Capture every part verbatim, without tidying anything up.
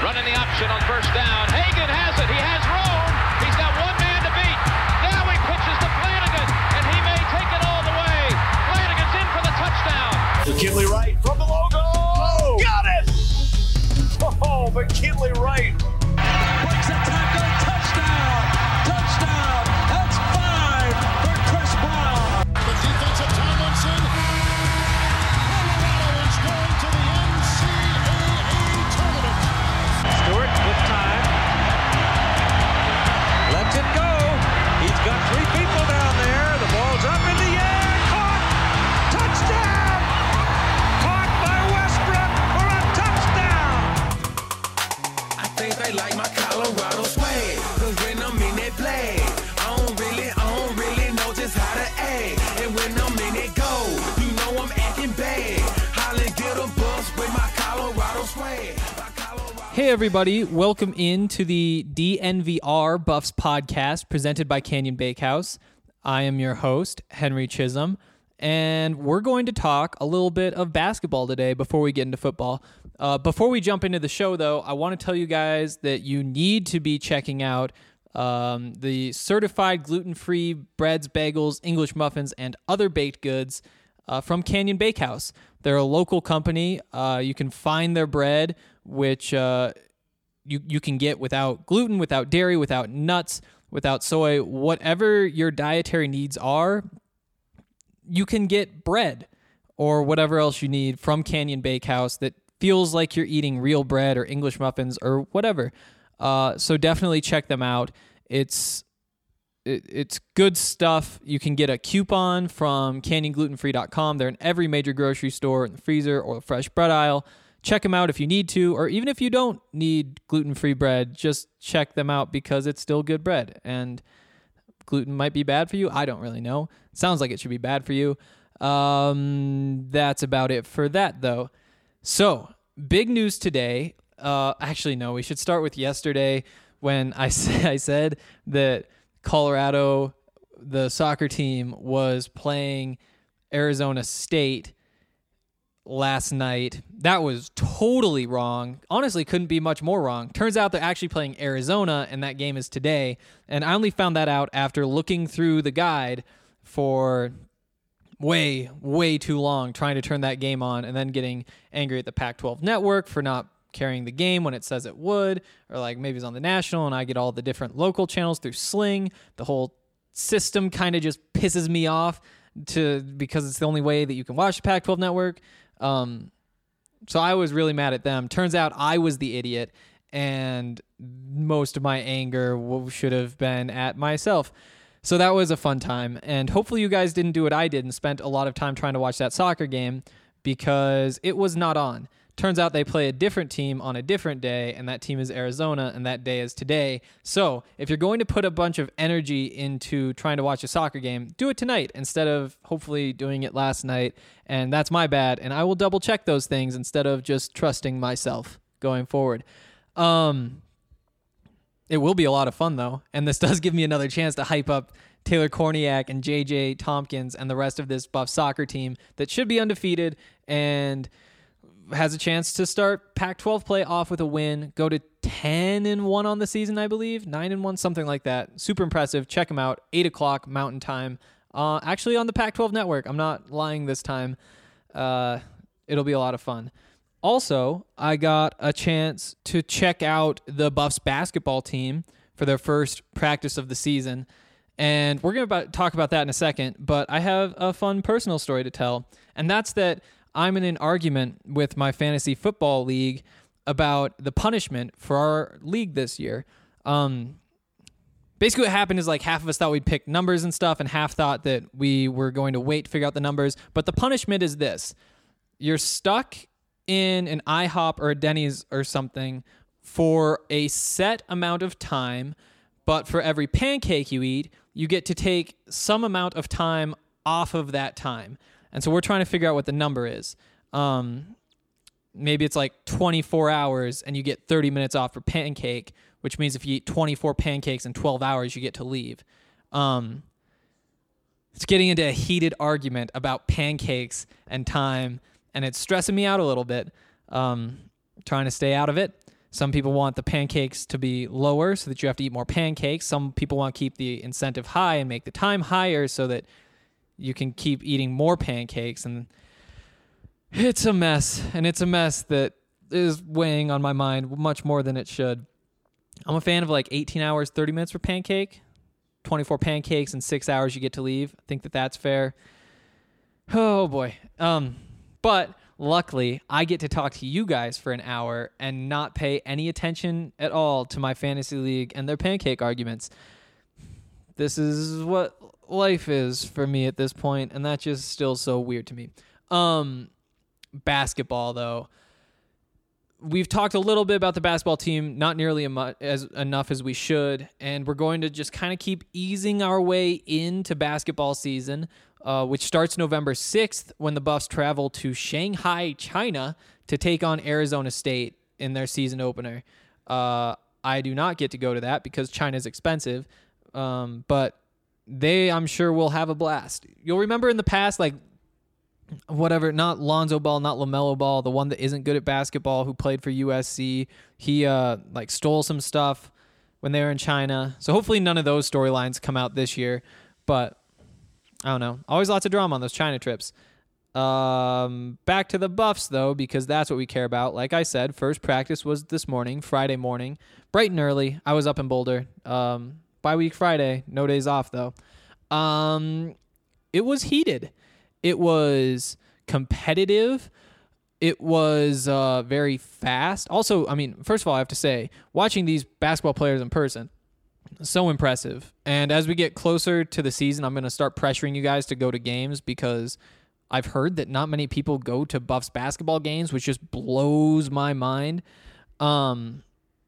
Running the option on first down. Hagan has it. He has room. He's got one man to beat. Now he pitches to Flanagan, and he may take it all the way. Flanagan's in for the touchdown. McKinley Wright from the logo. Oh, got it! Oh, McKinley Wright. Breaks a tackle. Touchdown. Touchdown. That's five for Chris Brown. The defensive Tomlinson. Colorado is going to the N C double A tournament. Stewart with time. Lets it go. He's got three people down there. The ball's up in the air. Caught. Touchdown. Caught by Westbrook for a touchdown. I think they like my Colorado swag. Cause when I'm in that play, I don't really, I don't really know just how to act. And when I'm in it go, you know I'm acting bad. Holland get a bus with my Colorado swag. My Colorado- Hey everybody, welcome into the D N V R Buffs podcast presented by Canyon Bakehouse. I am your host, Henry Chisholm, and we're going to talk a little bit of basketball today before we get into football. Uh, before we jump into the show, though, I want to tell you guys that you need to be checking out um, the certified gluten-free breads, bagels, English muffins, and other baked goods uh, from Canyon Bakehouse. They're a local company. Uh, you can find their bread, which uh, you, you can get without gluten, without dairy, without nuts, without soy. Whatever your dietary needs are, you can get bread or whatever else you need from Canyon Bakehouse that feels like you're eating real bread or English muffins or whatever. Uh, so definitely check them out. It's it, it's good stuff. You can get a coupon from canyon gluten free dot com. They're in every major grocery store, in the freezer or the fresh bread aisle. Check them out if you need to, or even if you don't need gluten-free bread, just check them out because it's still good bread. And gluten might be bad for you. I don't really know. It sounds like it should be bad for you. Um, that's about it for that, though. So, big news today. Uh, actually, no, we should start with yesterday when I, I said that Colorado, the soccer team, was playing Arizona State last night. That was totally wrong. Honestly, couldn't be much more wrong. Turns out they're actually playing Arizona, and that game is today. And I only found that out after looking through the guide for way, way too long, trying to turn that game on, and then getting angry at the Pac twelve network for not carrying the game when it says it would, or like maybe it's on the national, and I get all the different local channels through Sling. The whole system kind of just pisses me off to because it's the only way that you can watch the Pac twelve network. Um, so I was really mad at them. Turns out I was the idiot, and most of my anger w- should have been at myself. So that was a fun time, and hopefully you guys didn't do what I did and spent a lot of time trying to watch that soccer game because it was not on. Turns out they play a different team on a different day, and that team is Arizona, and that day is today. So if you're going to put a bunch of energy into trying to watch a soccer game, do it tonight instead of hopefully doing it last night, and that's my bad, and I will double check those things instead of just trusting myself going forward. Um, it will be a lot of fun, though, and this does give me another chance to hype up Taylor Korniak and J J Tompkins and the rest of this Buff soccer team that should be undefeated and has a chance to start Pac twelve play off with a win, go to ten and one on the season, I believe, nine and one, something like that. Super impressive. Check them out. eight o'clock Mountain Time. Uh, actually on the Pac twelve network. I'm not lying this time. Uh, it'll be a lot of fun. Also, I got a chance to check out the Buffs basketball team for their first practice of the season. And we're going to talk about that in a second, but I have a fun personal story to tell. And that's that I'm in an argument with my fantasy football league about the punishment for our league this year. Um, basically what happened is like half of us thought we'd pick numbers and stuff, and half thought that we were going to wait to figure out the numbers. But the punishment is this. You're stuck in an IHOP or a Denny's or something for a set amount of time, but for every pancake you eat, you get to take some amount of time off of that time. And so we're trying to figure out what the number is. Um, maybe it's like twenty-four hours and you get thirty minutes off for pancake, which means if you eat twenty-four pancakes in twelve hours, you get to leave. Um, it's getting into a heated argument about pancakes and time, and it's stressing me out a little bit. Um, trying to stay out of it. Some people want the pancakes to be lower so that you have to eat more pancakes. Some people want to keep the incentive high and make the time higher so that you can keep eating more pancakes. And it's a mess. And it's a mess that is weighing on my mind much more than it should. I'm a fan of like eighteen hours, thirty minutes for pancake. twenty-four pancakes in six hours you get to leave. I think that that's fair. Oh, boy. Um, but... Luckily, I get to talk to you guys for an hour and not pay any attention at all to my fantasy league and their pancake arguments. This is what life is for me at this point, and that's just still so weird to me. Um, basketball, though. We've talked a little bit about the basketball team, not nearly as enough as we should, and we're going to just kind of keep easing our way into basketball season. Uh, which starts November sixth when the Buffs travel to Shanghai, China to take on Arizona State in their season opener. Uh, I do not get to go to that because China is expensive, um, but they, I'm sure, will have a blast. You'll remember in the past, like, whatever, not Lonzo Ball, not LaMelo Ball, the one that isn't good at basketball who played for U S C. He, uh, like, stole some stuff when they were in China. So hopefully none of those storylines come out this year, but... I don't know. Always lots of drama on those China trips. Um, back to the Buffs, though, because that's what we care about. Like I said, first practice was this morning, Friday morning, bright and early. I was up in Boulder. Um, bye-week Friday, no days off, though. Um, it was heated. It was competitive. It was uh, very fast. Also, I mean, first of all, I have to say, watching these basketball players in person, so impressive. And as we get closer to the season, I'm going to start pressuring you guys to go to games because I've heard that not many people go to Buffs basketball games, which just blows my mind. Um,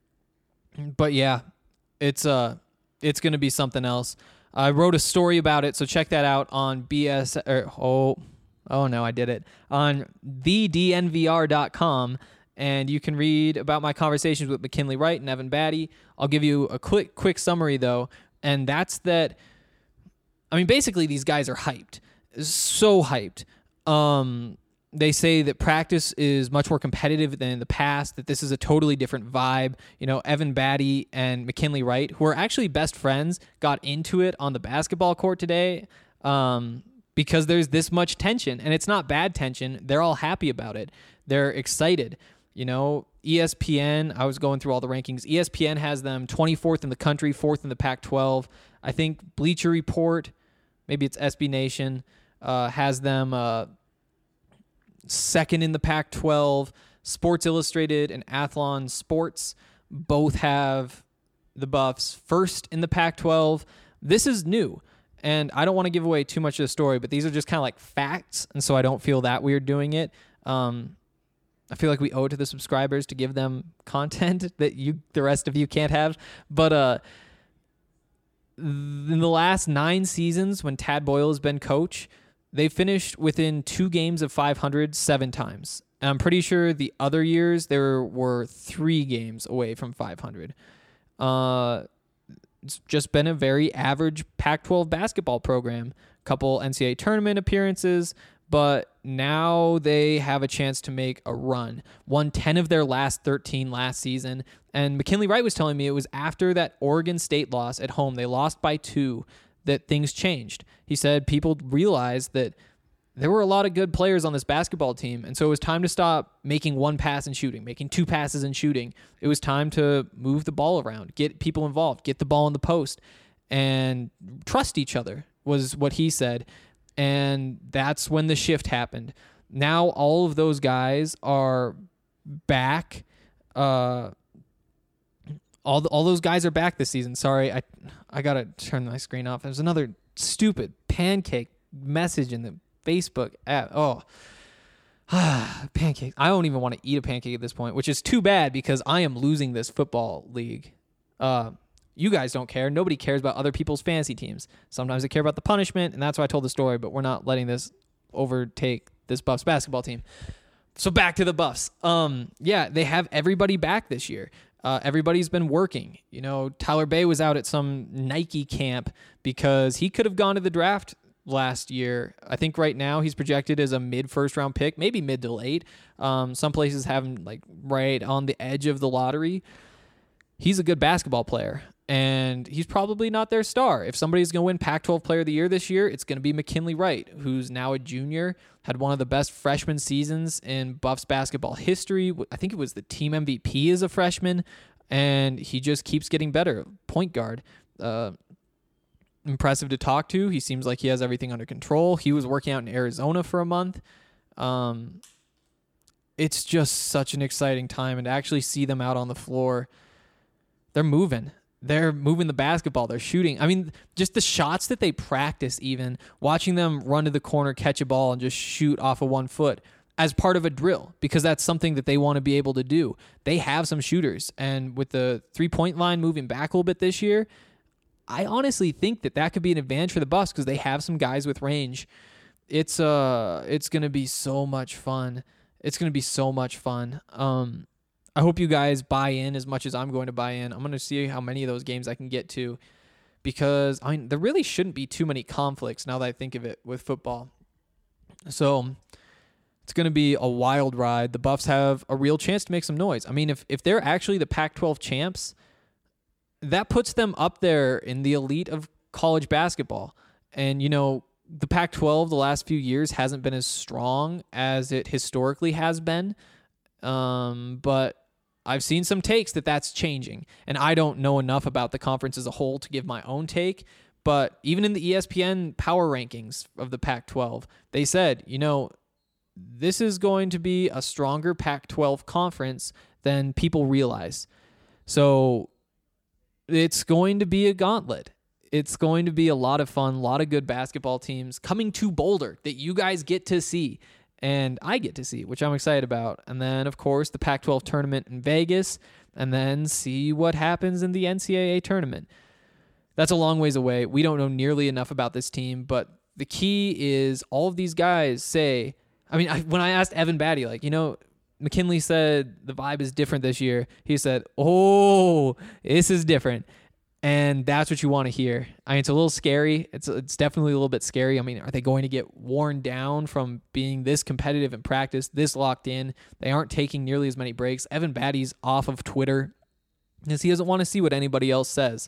but yeah, it's uh, it's going to be something else. I wrote a story about it, so check that out on B S. Or, oh, oh no, I did it on the D N V R dot com. And you can read about my conversations with McKinley Wright and Evan Batty. I'll give you a quick quick summary, though, and that's that, I mean, basically, these guys are hyped. So hyped. Um, they say that practice is much more competitive than in the past, that this is a totally different vibe. You know, Evan Batty and McKinley Wright, who are actually best friends, got into it on the basketball court today um, because there's this much tension, and it's not bad tension. They're all happy about it. They're excited. You know, E S P N, I was going through all the rankings. E S P N has them twenty-fourth in the country, fourth in the Pac twelve. I think Bleacher Report, maybe it's S B Nation, uh, has them uh, second in the Pac twelve. Sports Illustrated and Athlon Sports both have the Buffs first in the Pac twelve. This is new, and I don't want to give away too much of the story, but these are just kind of like facts, and so I don't feel that weird doing it. Um, I feel like we owe it to the subscribers to give them content that you, the rest of you, can't have. But uh, in the last nine seasons, when Tad Boyle has been coach, they finished within two games of five hundred seven times. And I'm pretty sure the other years there were three games away from five hundred. Uh, it's just been a very average Pac twelve basketball program. Couple N C double A tournament appearances. But now they have a chance to make a run. Won ten of their last thirteen last season. And McKinley Wright was telling me it was after that Oregon State loss at home, they lost by two, that things changed. He said people realized that there were a lot of good players on this basketball team, and so it was time to stop making one pass and shooting, making two passes and shooting. It was time to move the ball around, get people involved, get the ball in the post, and trust each other was what he said. And that's when the shift happened. Now all of those guys are back. Uh, all the, all those guys are back this season. Sorry, I I gotta turn my screen off. There's another stupid pancake message in the Facebook app. Oh, pancake. I don't even want to eat a pancake at this point, which is too bad because I am losing this football league. Uh, You guys don't care. Nobody cares about other people's fantasy teams. Sometimes they care about the punishment, and that's why I told the story, but we're not letting this overtake this Buffs basketball team. So back to the Buffs. Um, yeah, they have everybody back this year. Uh, everybody's been working. You know, Tyler Bay was out at some Nike camp because he could have gone to the draft last year. I think right now he's projected as a mid first round pick, maybe mid to late. Um, some places have him like right on the edge of the lottery. He's a good basketball player, and he's probably not their star. If somebody's going to win Pac twelve Player of the Year this year, it's going to be McKinley Wright, who's now a junior, had one of the best freshman seasons in Buffs basketball history. I think it was the team M V P as a freshman, and he just keeps getting better. Point guard. Uh, impressive to talk to. He seems like he has everything under control. He was working out in Arizona for a month. Um, it's just such an exciting time, and to actually see them out on the floor, they're moving. They're moving the basketball. They're shooting. I mean, just the shots that they practice, even watching them run to the corner, catch a ball, and just shoot off of one foot as part of a drill, because that's something that they want to be able to do. They have some shooters, and with the three-point line moving back a little bit this year, I honestly think that that could be an advantage for the Buffs because they have some guys with range. It's uh, it's gonna be so much fun. It's gonna be so much fun. Um, I hope you guys buy in as much as I'm going to buy in. I'm going to see how many of those games I can get to, because I mean, there really shouldn't be too many conflicts now that I think of it with football. So it's going to be a wild ride. The Buffs have a real chance to make some noise. I mean, if, if they're actually the Pac twelve champs, that puts them up there in the elite of college basketball. And, you know, the Pac twelve the last few years hasn't been as strong as it historically has been. Um, but I've seen some takes that that's changing, and I don't know enough about the conference as a whole to give my own take. But even in the E S P N power rankings of the Pac twelve, they said, you know, this is going to be a stronger Pac twelve conference than people realize. So it's going to be a gauntlet. It's going to be a lot of fun, a lot of good basketball teams coming to Boulder that you guys get to see. And I get to see, which I'm excited about. And then, of course, the Pac twelve tournament in Vegas, and then see what happens in the N C double A tournament. That's a long ways away. We don't know nearly enough about this team, but the key is all of these guys say, I mean, I, when I asked Evan Batty, like, you know, McKinley said the vibe is different this year. He said, oh, this is different. And that's what you want to hear. I mean, it's a little scary. It's it's definitely a little bit scary. I mean, are they going to get worn down from being this competitive in practice, this locked in? They aren't taking nearly as many breaks. Evan Batty's off of Twitter because he doesn't want to see what anybody else says.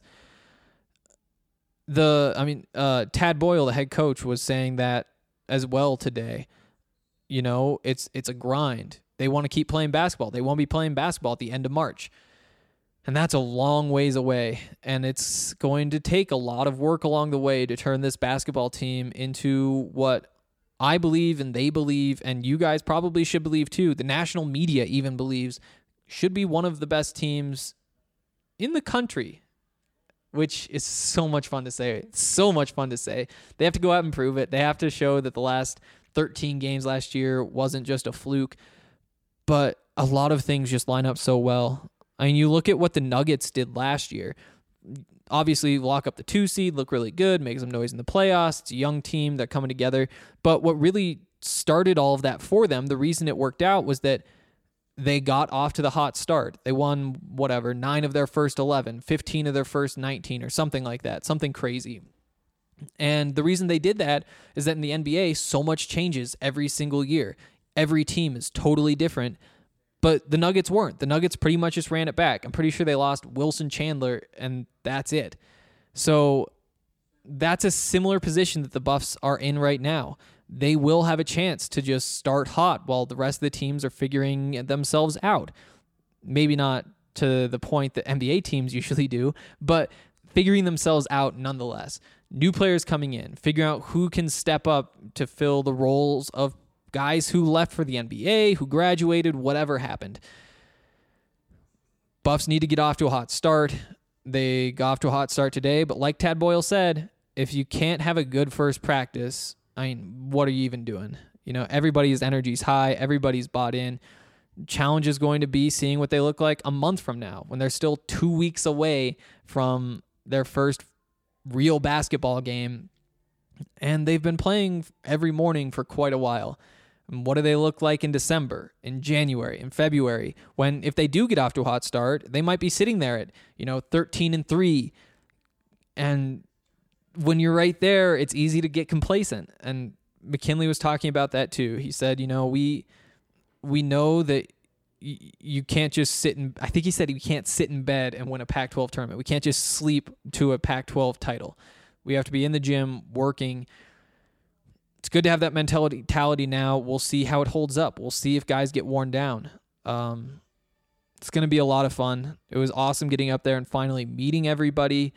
The, I mean, uh, Tad Boyle, the head coach, was saying that as well today. You know, it's it's a grind. They want to keep playing basketball. They won't be playing basketball at the end of March. And that's a long ways away, and it's going to take a lot of work along the way to turn this basketball team into what I believe and they believe, and you guys probably should believe too. The national media even believes should be one of the best teams in the country, which is so much fun to say. It's so much fun to say. They have to go out and prove it. They have to show that the last thirteen games last year wasn't just a fluke, but a lot of things just line up so well. I mean, you look at what the Nuggets did last year. Obviously, lock up the two seed, look really good, make some noise in the playoffs. It's a young team, they're coming together. But what really started all of that for them, the reason it worked out was that they got off to the hot start. They won, whatever, nine of their first eleven, fifteen of their first nineteen, or something like that, something crazy. And the reason they did that is that in the N B A, so much changes every single year. Every team is totally different. But the Nuggets weren't. The Nuggets pretty much just ran it back. I'm pretty sure they lost Wilson Chandler, and that's it. So that's a similar position that the Buffs are in right now. They will have a chance to just start hot while the rest of the teams are figuring themselves out. Maybe not to the point that N B A teams usually do, but figuring themselves out nonetheless. New players coming in, figuring out who can step up to fill the roles of guys who left for the N B A, who graduated, whatever happened. Buffs need to get off to a hot start. They got off to a hot start today, but like Tad Boyle said, if you can't have a good first practice, I mean, what are you even doing? You know, everybody's energy's high, everybody's bought in. Challenge is going to be seeing what they look like a month from now, when they're still two weeks away from their first real basketball game, and they've been playing every morning for quite a while. And what do they look like in December, in January, in February, when if they do get off to a hot start, they might be sitting there at, you know, thirteen and three. And when you're right there, it's easy to get complacent. And McKinley was talking about that too. He said, you know, we we know that y- you can't just sit in, I think he said you can't sit in bed and win a Pac twelve tournament. We can't just sleep to a Pac twelve title. We have to be in the gym working. It's good to have that mentality now. We'll see how it holds up. We'll see if guys get worn down. Um, it's going to be a lot of fun. It was awesome getting up there and finally meeting everybody.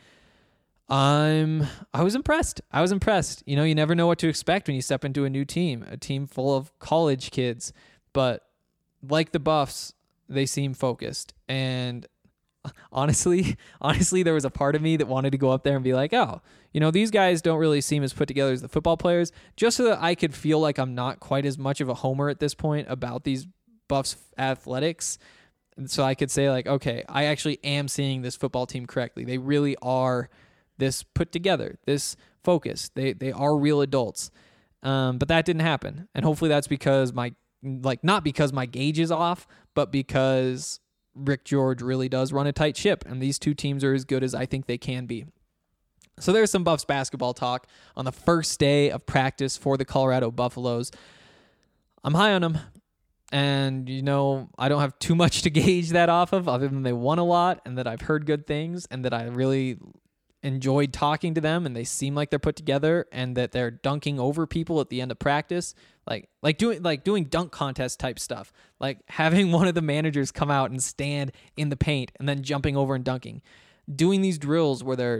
I'm, I was impressed. I was impressed. You know, you never know what to expect when you step into a new team, a team full of college kids. But like the Buffs, they seem focused. And honestly, honestly, there was a part of me that wanted to go up there and be like, oh, you know, these guys don't really seem as put together as the football players, just so that I could feel like I'm not quite as much of a homer at this point about these Buffs athletics. And so I could say like, okay, I actually am seeing this football team correctly. They really are this put together, this focus. They they are real adults. Um, but that didn't happen. And hopefully that's because my, like, not because my gauge is off, but because Rick George really does run a tight ship, and these two teams are as good as I think they can be. So there's some Buffs basketball talk on the first day of practice for the Colorado Buffaloes. I'm high on them, and, you know, I don't have too much to gauge that off of, other than they won a lot and that I've heard good things and that I really enjoyed talking to them, and they seem like they're put together, and that they're dunking over people at the end of practice, like like doing like doing dunk contest type stuff, like having one of the managers come out and stand in the paint and then jumping over and dunking, doing these drills where they're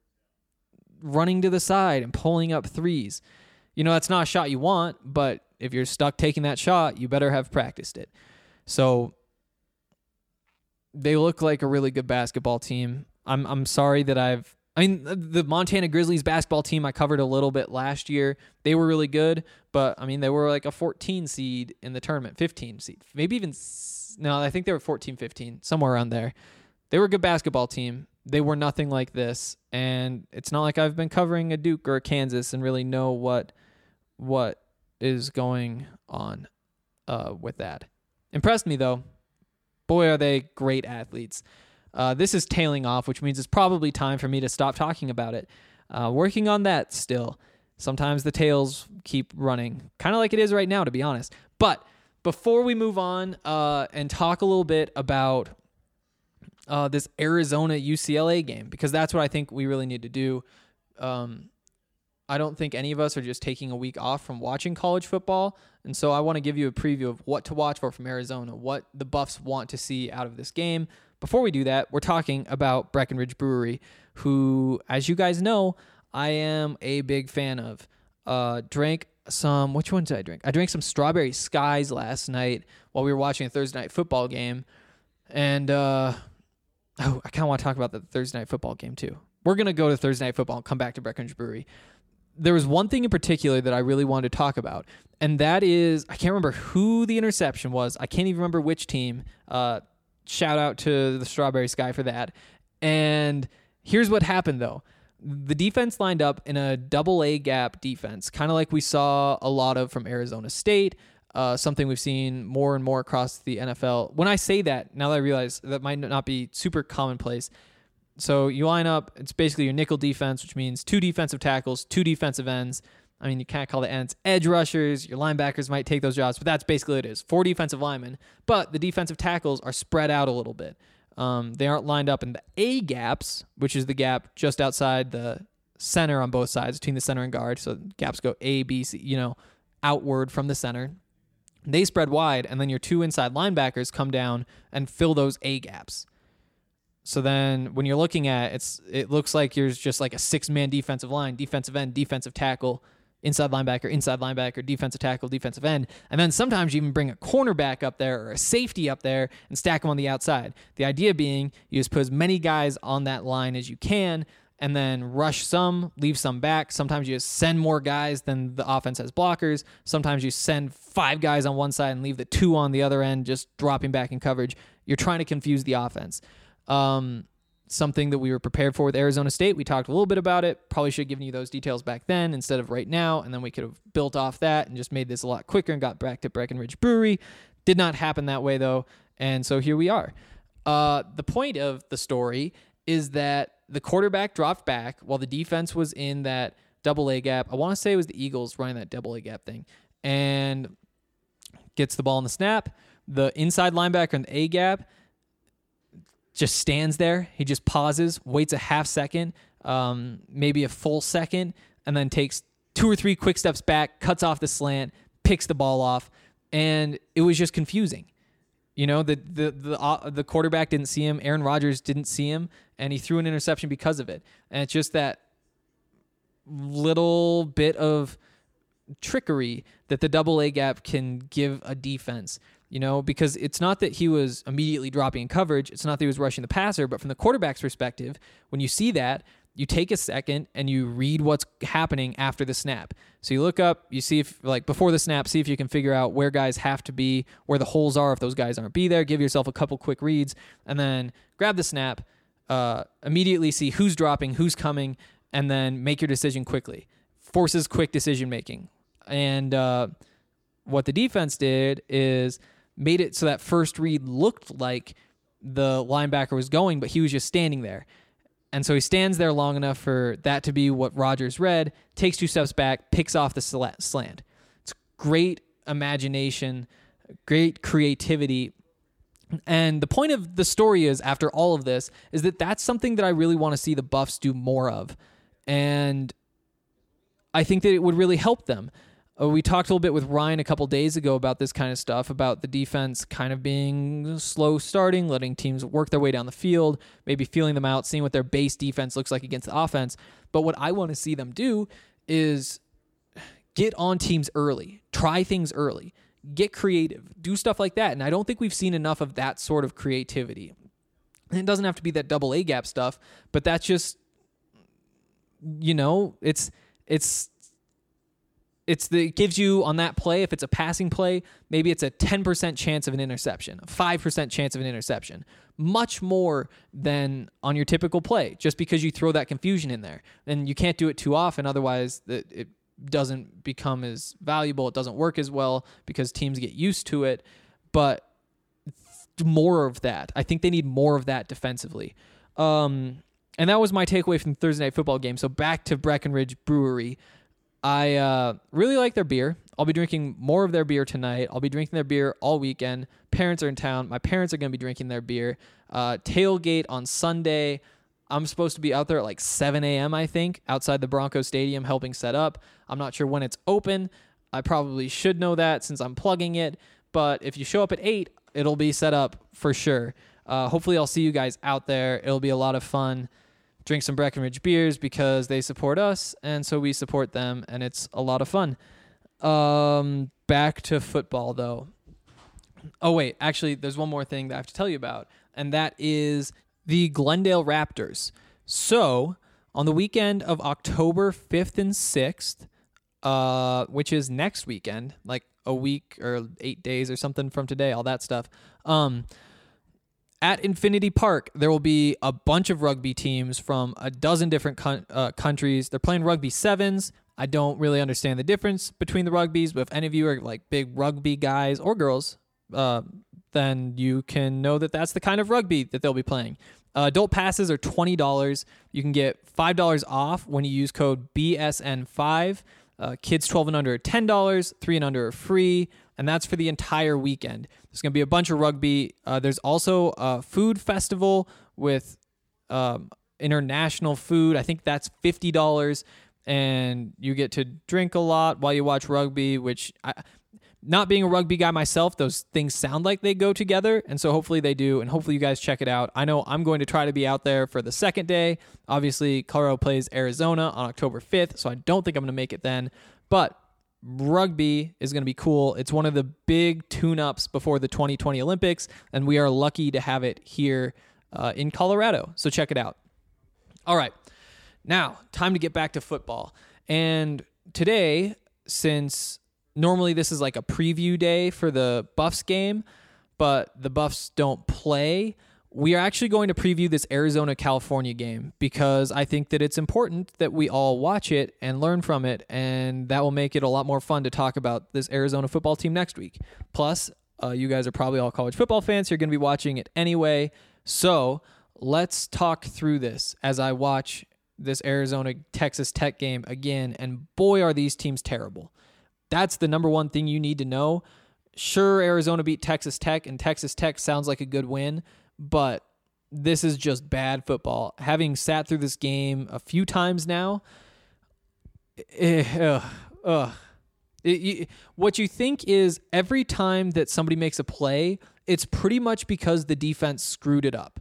running to the side and pulling up threes. You know, that's not a shot you want, but if you're stuck taking that shot, you better have practiced it. So they look like a really good basketball team. I'm I'm sorry that I've I mean, the Montana Grizzlies basketball team I covered a little bit last year. They were really good, but, I mean, they were like a fourteen seed in the tournament, fifteen seed. Maybe even, no, I think they were fourteen, fifteen, somewhere around there. They were a good basketball team. They were nothing like this, and it's not like I've been covering a Duke or a Kansas and really know what what is going on uh, with that. Impressed me, though. Boy, are they great athletes. Uh, this is tailing off, which means it's probably time for me to stop talking about it. Uh, working on that still. Sometimes the tails keep running, kind of like it is right now, to be honest. But before we move on uh, and talk a little bit about uh, this Arizona U C L A game, because that's what I think we really need to do. Um, I don't think any of us are just taking a week off from watching college football, and so I want to give you a preview of what to watch for from Arizona, what the Buffs want to see out of this game. Before we do that, we're talking about Breckenridge Brewery, who, as you guys know, I am a big fan of. Uh, drank some, which one did I drink? I drank some Strawberry Skies last night while we were watching a Thursday night football game. And, uh, oh, I kind of want to talk about the Thursday night football game too. We're going to go to Thursday night football and come back to Breckenridge Brewery. There was one thing in particular that I really wanted to talk about, and that is, I can't remember who the interception was. I can't even remember which team. Uh, Shout out to the Strawberry Sky for that. And here's what happened, though. The defense lined up in a double A gap defense, kind of like we saw a lot of from Arizona State, uh, something we've seen more and more across the N F L. When I say that, now that I realize that might not be super commonplace. So you line up, it's basically your nickel defense, which means two defensive tackles, two defensive ends. I mean, you can't call the ends edge rushers. Your linebackers might take those jobs, but that's basically what it is. Four defensive linemen, but the defensive tackles are spread out a little bit. Um, they aren't lined up in the A gaps, which is the gap just outside the center on both sides, between the center and guard. So gaps go A, B, C, you know, outward from the center. They spread wide, and then your two inside linebackers come down and fill those A gaps. So then when you're looking at it, it's, it looks like you're just like a six-man defensive line, defensive end, defensive tackle, inside linebacker, inside linebacker, defensive tackle, defensive end. And then sometimes you even bring a cornerback up there or a safety up there and stack them on the outside. The idea being you just put as many guys on that line as you can and then rush some, leave some back. Sometimes you just send more guys than the offense has blockers. Sometimes you send five guys on one side and leave the two on the other end, just dropping back in coverage. You're trying to confuse the offense. Um, something that we were prepared for with Arizona State. We talked a little bit about it. Probably should have given you those details back then instead of right now, and then we could have built off that and just made this a lot quicker and got back to Breckenridge Brewery. Did not happen that way, though, and so here we are. Uh, the point of the story is that the quarterback dropped back while the defense was in that double A gap. I want to say it was the Eagles running that double A gap thing, and gets the ball in the snap. The inside linebacker in the A gap just stands there. He just pauses, waits a half second, um, maybe a full second, and then takes two or three quick steps back, cuts off the slant, picks the ball off, and it was just confusing. You know, the the the uh, the quarterback didn't see him. Aaron Rodgers didn't see him, and he threw an interception because of it. And it's just that little bit of trickery that the double A gap can give a defense. You know, because it's not that he was immediately dropping in coverage. It's not that he was rushing the passer. But from the quarterback's perspective, when you see that, you take a second and you read what's happening after the snap. So you look up, you see if, like, before the snap, see if you can figure out where guys have to be, where the holes are if those guys aren't be there. Give yourself a couple quick reads, and then grab the snap, uh, immediately see who's dropping, who's coming, and then make your decision quickly. Forces quick decision making. And uh, what the defense did is made it so that first read looked like the linebacker was going, but he was just standing there. And so he stands there long enough for that to be what Rodgers read, takes two steps back, picks off the slant. It's great imagination, great creativity. And the point of the story is, after all of this, is that that's something that I really want to see the Buffs do more of. And I think that it would really help them. Uh, we talked a little bit with Ryan a couple days ago about this kind of stuff, about the defense kind of being slow starting, letting teams work their way down the field, maybe feeling them out, seeing what their base defense looks like against the offense. But what I want to see them do is get on teams early, try things early, get creative, do stuff like that. And I don't think we've seen enough of that sort of creativity. And it doesn't have to be that double A gap stuff, but that's just, you know, it's, it's, It's the, it gives you on that play, if it's a passing play, maybe it's a ten percent chance of an interception, a five percent chance of an interception. Much more than on your typical play, just because you throw that confusion in there. And you can't do it too often, otherwise it doesn't become as valuable, it doesn't work as well because teams get used to it. But more of that. I think they need more of that defensively. Um, and that was my takeaway from the Thursday Night Football game. So back to Breckenridge Brewery. I uh, really like their beer. I'll be drinking more of their beer tonight. I'll be drinking their beer all weekend. Parents are in town. My parents are going to be drinking their beer. Uh, tailgate on Sunday. I'm supposed to be out there at like seven a.m., I think, outside the Bronco Stadium helping set up. I'm not sure when it's open. I probably should know that since I'm plugging it. But if you show up at eight, it'll be set up for sure. Uh, hopefully I'll see you guys out there. It'll be a lot of fun. Drink some Breckenridge beers because they support us, and so we support them, and it's a lot of fun. Um, back to football, though. Oh, wait. Actually, there's one more thing that I have to tell you about, and that is the Glendale Raptors. So, on the weekend of October fifth and sixth, uh, which is next weekend, like a week or eight days or something from today, all that stuff, um, at Infinity Park, there will be a bunch of rugby teams from a dozen different con- uh, countries. They're playing rugby sevens. I don't really understand the difference between the rugbies, but if any of you are like big rugby guys or girls, uh, then you can know that that's the kind of rugby that they'll be playing. Uh, adult passes are twenty dollars. You can get five dollars off when you use code B S N five. Uh, kids twelve and under are ten dollars. three and under are free. And that's for the entire weekend. There's going to be a bunch of rugby. Uh, there's also a food festival with um, international food. I think that's fifty dollars. And you get to drink a lot while you watch rugby, which, I, not being a rugby guy myself, those things sound like they go together. And so hopefully they do. And hopefully you guys check it out. I know I'm going to try to be out there for the second day. Obviously, Colorado plays Arizona on October fifth, so I don't think I'm going to make it then. But rugby is going to be cool. It's one of the big tune-ups before the twenty twenty Olympics, and we are lucky to have it here uh, in Colorado. So check it out. All right. Now, time to get back to football. And today, since normally this is like a preview day for the Buffs game, but the Buffs don't play, we are actually going to preview this Arizona-California game because I think that it's important that we all watch it and learn from it, and that will make it a lot more fun to talk about this Arizona football team next week. Plus, uh, you guys are probably all college football fans. So you're going to be watching it anyway, so let's talk through this as I watch this Arizona Texas Tech game again, and boy, are these teams terrible. That's the number one thing you need to know. Sure, Arizona beat Texas Tech, and Texas Tech sounds like a good win, but this is just bad football. Having sat through this game a few times now, eh, ugh, ugh. It, you, what you think is every time that somebody makes a play, it's pretty much because the defense screwed it up.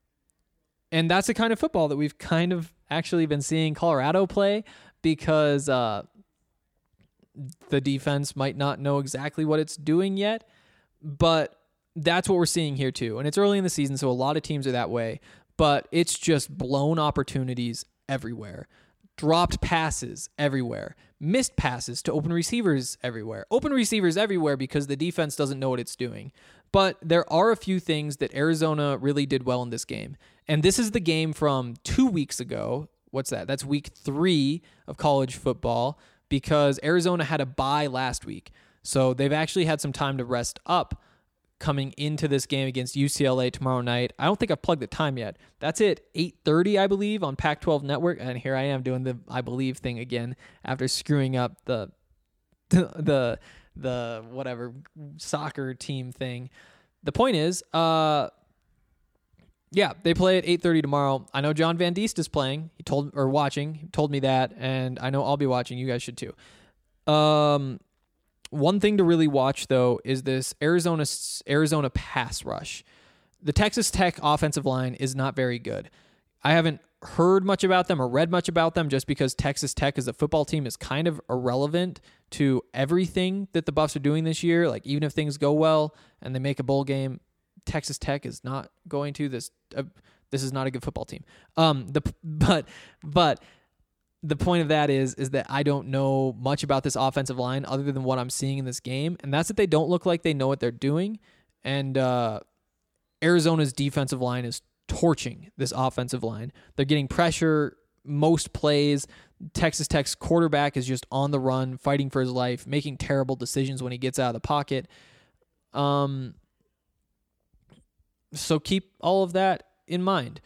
And that's the kind of football that we've kind of actually been seeing Colorado play, because uh, the defense might not know exactly what it's doing yet, but that's what we're seeing here too. And it's early in the season, so a lot of teams are that way, but it's just blown opportunities everywhere. Dropped passes everywhere. Missed passes to open receivers everywhere. Open receivers everywhere because the defense doesn't know what it's doing. But there are a few things that Arizona really did well in this game. And this is the game from two weeks ago. What's that? That's week three of college football, because Arizona had a bye last week. So they've actually had some time to rest up coming into this game against U C L A tomorrow night. I don't think I've plugged the time yet. That's at eight thirty, I believe, on Pac twelve Network. And here I am doing the I believe thing again after screwing up the the the whatever soccer team thing. The point is, uh, yeah, they play at eight thirty tomorrow. I know John Van Diest is playing. He told or watching. He told me that, and I know I'll be watching. You guys should too. Um. One thing to really watch, though, is this Arizona Arizona pass rush. The Texas Tech offensive line is not very good. I haven't heard much about them or read much about them, just because Texas Tech as a football team is kind of irrelevant to everything that the Buffs are doing this year. Like, even if things go well and they make a bowl game, Texas Tech is not going to. This uh, this is not a good football team. Um, the but but. The point of that is, is that I don't know much about this offensive line other than what I'm seeing in this game, and that's that they don't look like they know what they're doing. And uh, Arizona's defensive line is torching this offensive line. They're getting pressure most plays. Texas Tech's quarterback is just on the run, fighting for his life, making terrible decisions when he gets out of the pocket. Um, so keep all of that in mind.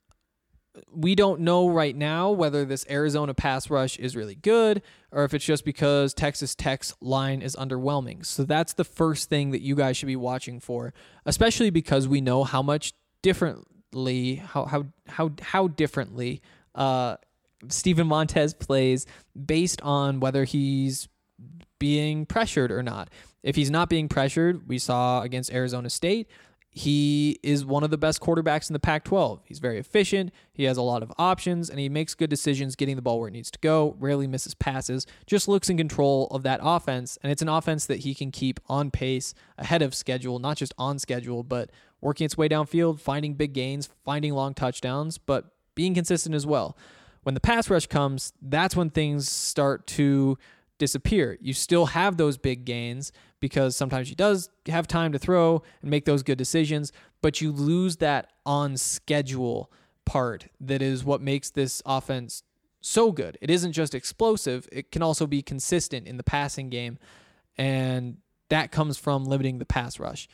We don't know right now whether this Arizona pass rush is really good or if it's just because Texas Tech's line is underwhelming. So that's the first thing that you guys should be watching for, especially because we know how much differently, how how how how differently uh, Steven Montez plays based on whether he's being pressured or not. If he's not being pressured, we saw against Arizona State, he is one of the best quarterbacks in the Pac twelve. He's very efficient. He has a lot of options, and he makes good decisions getting the ball where it needs to go, rarely misses passes, just looks in control of that offense. And it's an offense that he can keep on pace, ahead of schedule, not just on schedule, but working its way downfield, finding big gains, finding long touchdowns, but being consistent as well. When the pass rush comes, that's when things start to disappear. You still have those big gains because sometimes he does have time to throw and make those good decisions, but you lose that on schedule part that is what makes this offense so good. It isn't just explosive, it can also be consistent in the passing game, and that comes from limiting the pass rush.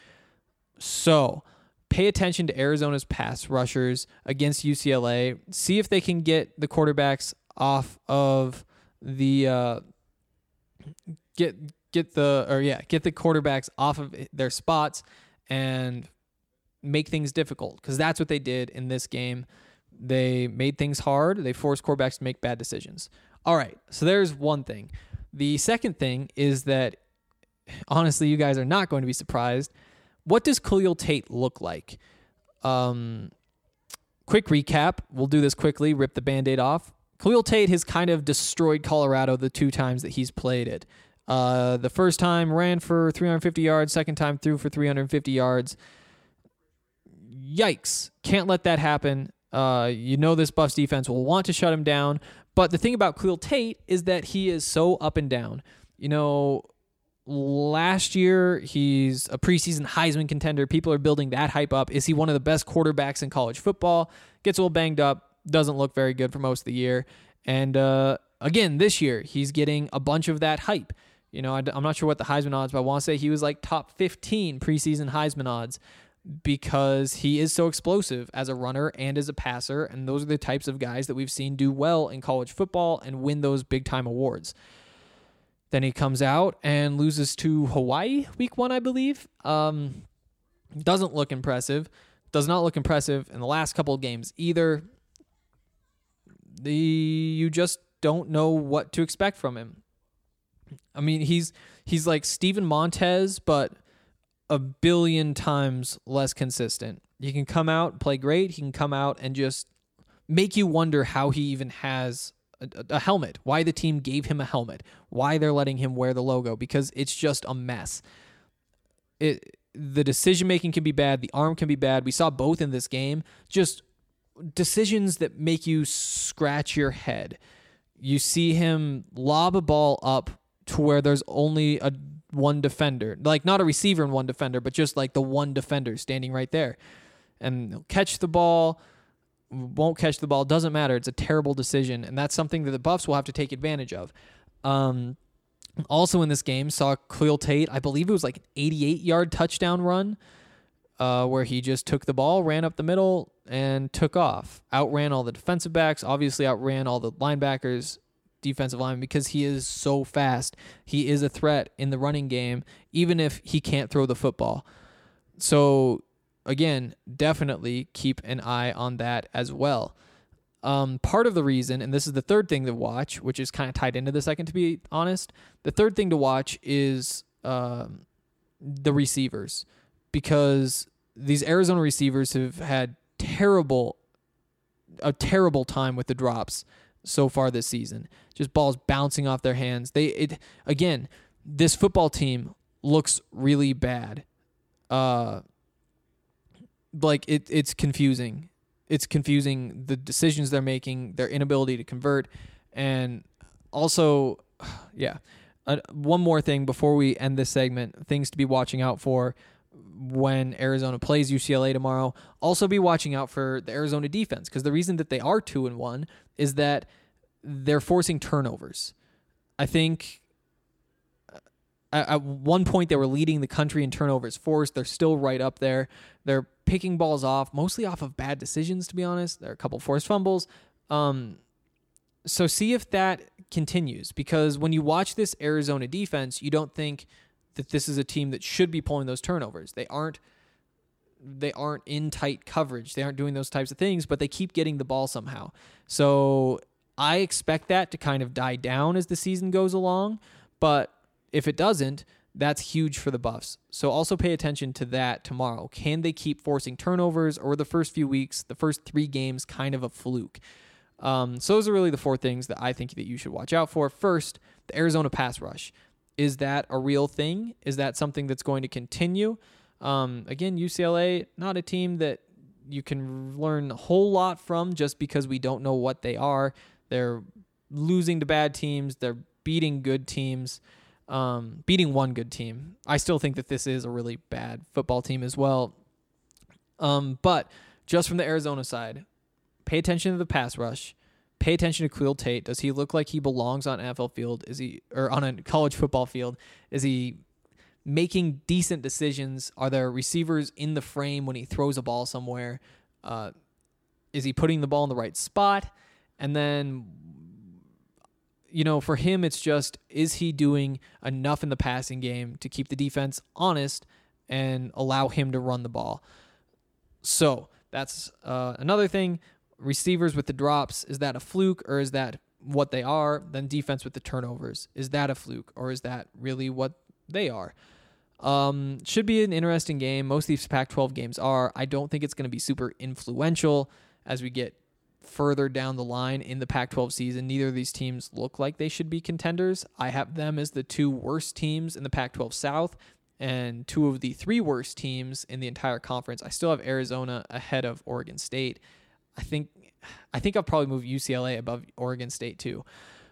So pay attention to Arizona's pass rushers against U C L A. See if they can get the quarterbacks off of the uh, get get the or yeah get the quarterbacks off of their spots and make things difficult, because that's what they did in this game. They made things hard. They forced quarterbacks to make bad decisions. All right, so there's one thing. The second thing is that, honestly, you guys are not going to be surprised. What does Khalil Tate look like? Um, quick recap. We'll do this quickly, rip the Band-Aid off. Khalil Tate has kind of destroyed Colorado the two times that he's played it. Uh, the first time ran for three hundred fifty yards, second time threw for three hundred fifty yards. Yikes. Can't let that happen. Uh, you know this Buffs defense will want to shut him down. But the thing about Khalil Tate is that he is so up and down. You know, last year, he's a preseason Heisman contender. People are building that hype up. Is he one of the best quarterbacks in college football? Gets a little banged up. Doesn't look very good for most of the year. And uh, again, this year, he's getting a bunch of that hype. You know, I'm not sure what the Heisman odds, but I want to say he was like top fifteen preseason Heisman odds. because he is so explosive as a runner and as a passer, and those are the types of guys that we've seen do well in college football and win those big-time awards. Then he comes out and loses to Hawaii week one, I believe. Um, doesn't look impressive. Does not look impressive in the last couple of games either. The you just don't know what to expect from him. I mean, he's he's like Steven Montez, but a billion times less consistent. He can come out and play great. He can come out and just make you wonder how he even has a, a helmet, why the team gave him a helmet, why they're letting him wear the logo, because it's just a mess. It the decision-making can be bad. The arm can be bad. We saw both in this game. Just decisions that make you scratch your head. You see him lob a ball up to where there's only a one defender, like not a receiver and one defender, but just like the one defender standing right there. And he'll catch the ball, won't catch the ball, doesn't matter. It's a terrible decision, and that's something that the Buffs will have to take advantage of. Um, also in this game, saw Khalil Tate, I believe it was like an eighty-eight-yard touchdown run, uh, where he just took the ball, ran up the middle, and took off. Outran all the defensive backs, obviously outran all the linebackers, defensive lineman, because he is so fast. He is a threat in the running game, even if he can't throw the football. So, again, definitely keep an eye on that as well. Um, part of the reason, and this is the third thing to watch, which is kind of tied into the second, to be honest, the third thing to watch is um, the receivers, because these Arizona receivers have had terrible, a terrible time with the drops so far this season. Just balls bouncing off their hands. They it again, this football team looks really bad. Uh like it it's confusing. It's confusing, the decisions they're making, their inability to convert, and also yeah. Uh, one more thing before we end this segment, things to be watching out for when Arizona plays U C L A tomorrow. Also be watching out for the Arizona defense, because the reason that they are two and one is that they're forcing turnovers. I think at, at one point they were leading the country in turnovers forced. They're still right up there. They're picking balls off, mostly off of bad decisions, to be honest. There are a couple forced fumbles. Um, so see if that continues, because when you watch this Arizona defense, you don't think that this is a team that should be pulling those turnovers. They aren't they aren't in tight coverage. They aren't doing those types of things, but they keep getting the ball somehow. So I expect that to kind of die down as the season goes along, but if it doesn't, that's huge for the Buffs. So also pay attention to that tomorrow. Can they keep forcing turnovers, or the first few weeks, the first three games, kind of a fluke? Um, so those are really the four things that I think that you should watch out for. First, the Arizona pass rush. Is that a real thing? Is that something that's going to continue? Um, again, U C L A, not a team that you can learn a whole lot from just because we don't know what they are. They're losing to bad teams. They're beating good teams, um, beating one good team. I still think that this is a really bad football team as well. Um, but just from the Arizona side, pay attention to the pass rush. Pay attention to Khalil Tate. Does he look like he belongs on an N F L field? Is he, or on a college football field? Is he making decent decisions? Are there receivers in the frame when he throws a ball somewhere? Uh, is he putting the ball in the right spot? And then, you know, for him, it's just, is he doing enough in the passing game to keep the defense honest and allow him to run the ball? So that's uh, another thing. Receivers with the drops, is that a fluke, or is that what they are? Then defense with the turnovers, is that a fluke, or is that really what they are? Um, should be an interesting game. Most of these Pac twelve games are. I don't think it's going to be super influential as we get further down the line in the Pac twelve season. Neither of these teams look like they should be contenders. I have them as the two worst teams in the Pac twelve South and two of the three worst teams in the entire conference. I still have Arizona ahead of Oregon State. I think I think I'll probably move U C L A above Oregon State too.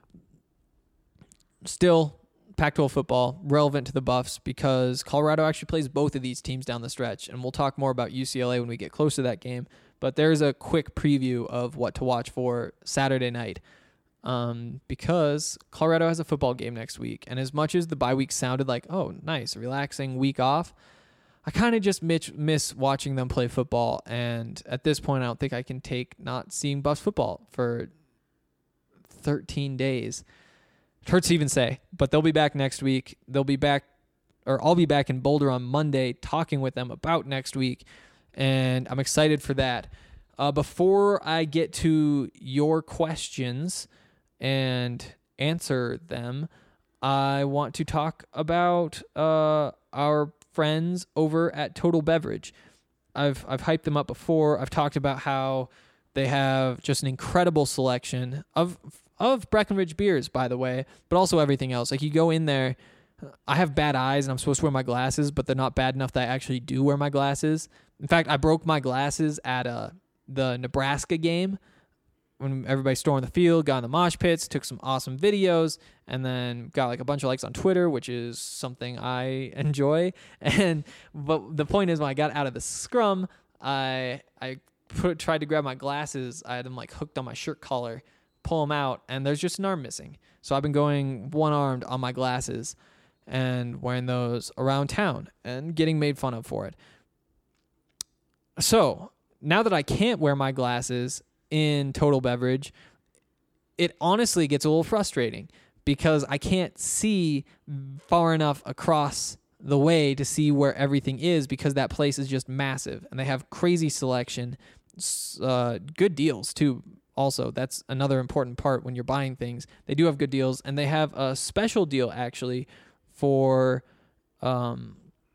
Still, Pac twelve football relevant to the Buffs because Colorado actually plays both of these teams down the stretch, and we'll talk more about U C L A when we get close to that game. But there's a quick preview of what to watch for Saturday night, um, because Colorado has a football game next week, and as much as the bye week sounded like, oh, nice, relaxing week off, I kind of just miss, miss watching them play football. And at this point, I don't think I can take not seeing Buffs football for thirteen days. It hurts to even say, but they'll be back next week. They'll be back, or I'll be back in Boulder on Monday talking with them about next week. And I'm excited for that. Uh, before I get to your questions and answer them, I want to talk about uh, our friends over at Total Beverage. I've I've hyped them up before. I've talked about how they have just an incredible selection of of Breckenridge beers, by the way, but also everything else. Like, you go in there, I have bad eyes and I'm supposed to wear my glasses, but they're not bad enough that I actually do wear my glasses. In fact, I broke my glasses at uh, the Nebraska game when everybody stormed the field, got in the mosh pits, took some awesome videos, and then got like a bunch of likes on Twitter, which is something I enjoy. And but the point is, when I got out of the scrum, I I put tried to grab my glasses. I had them like hooked on my shirt collar, pull them out, and there's just an arm missing. So I've been going one-armed on my glasses and wearing those around town and getting made fun of for it. So now that I can't wear my glasses in Total Beverage, it honestly gets a little frustrating because I can't see far enough across the way to see where everything is, because that place is just massive and they have crazy selection, uh, good deals too. Also, that's another important part when you're buying things. They do have good deals, and they have a special deal actually for um,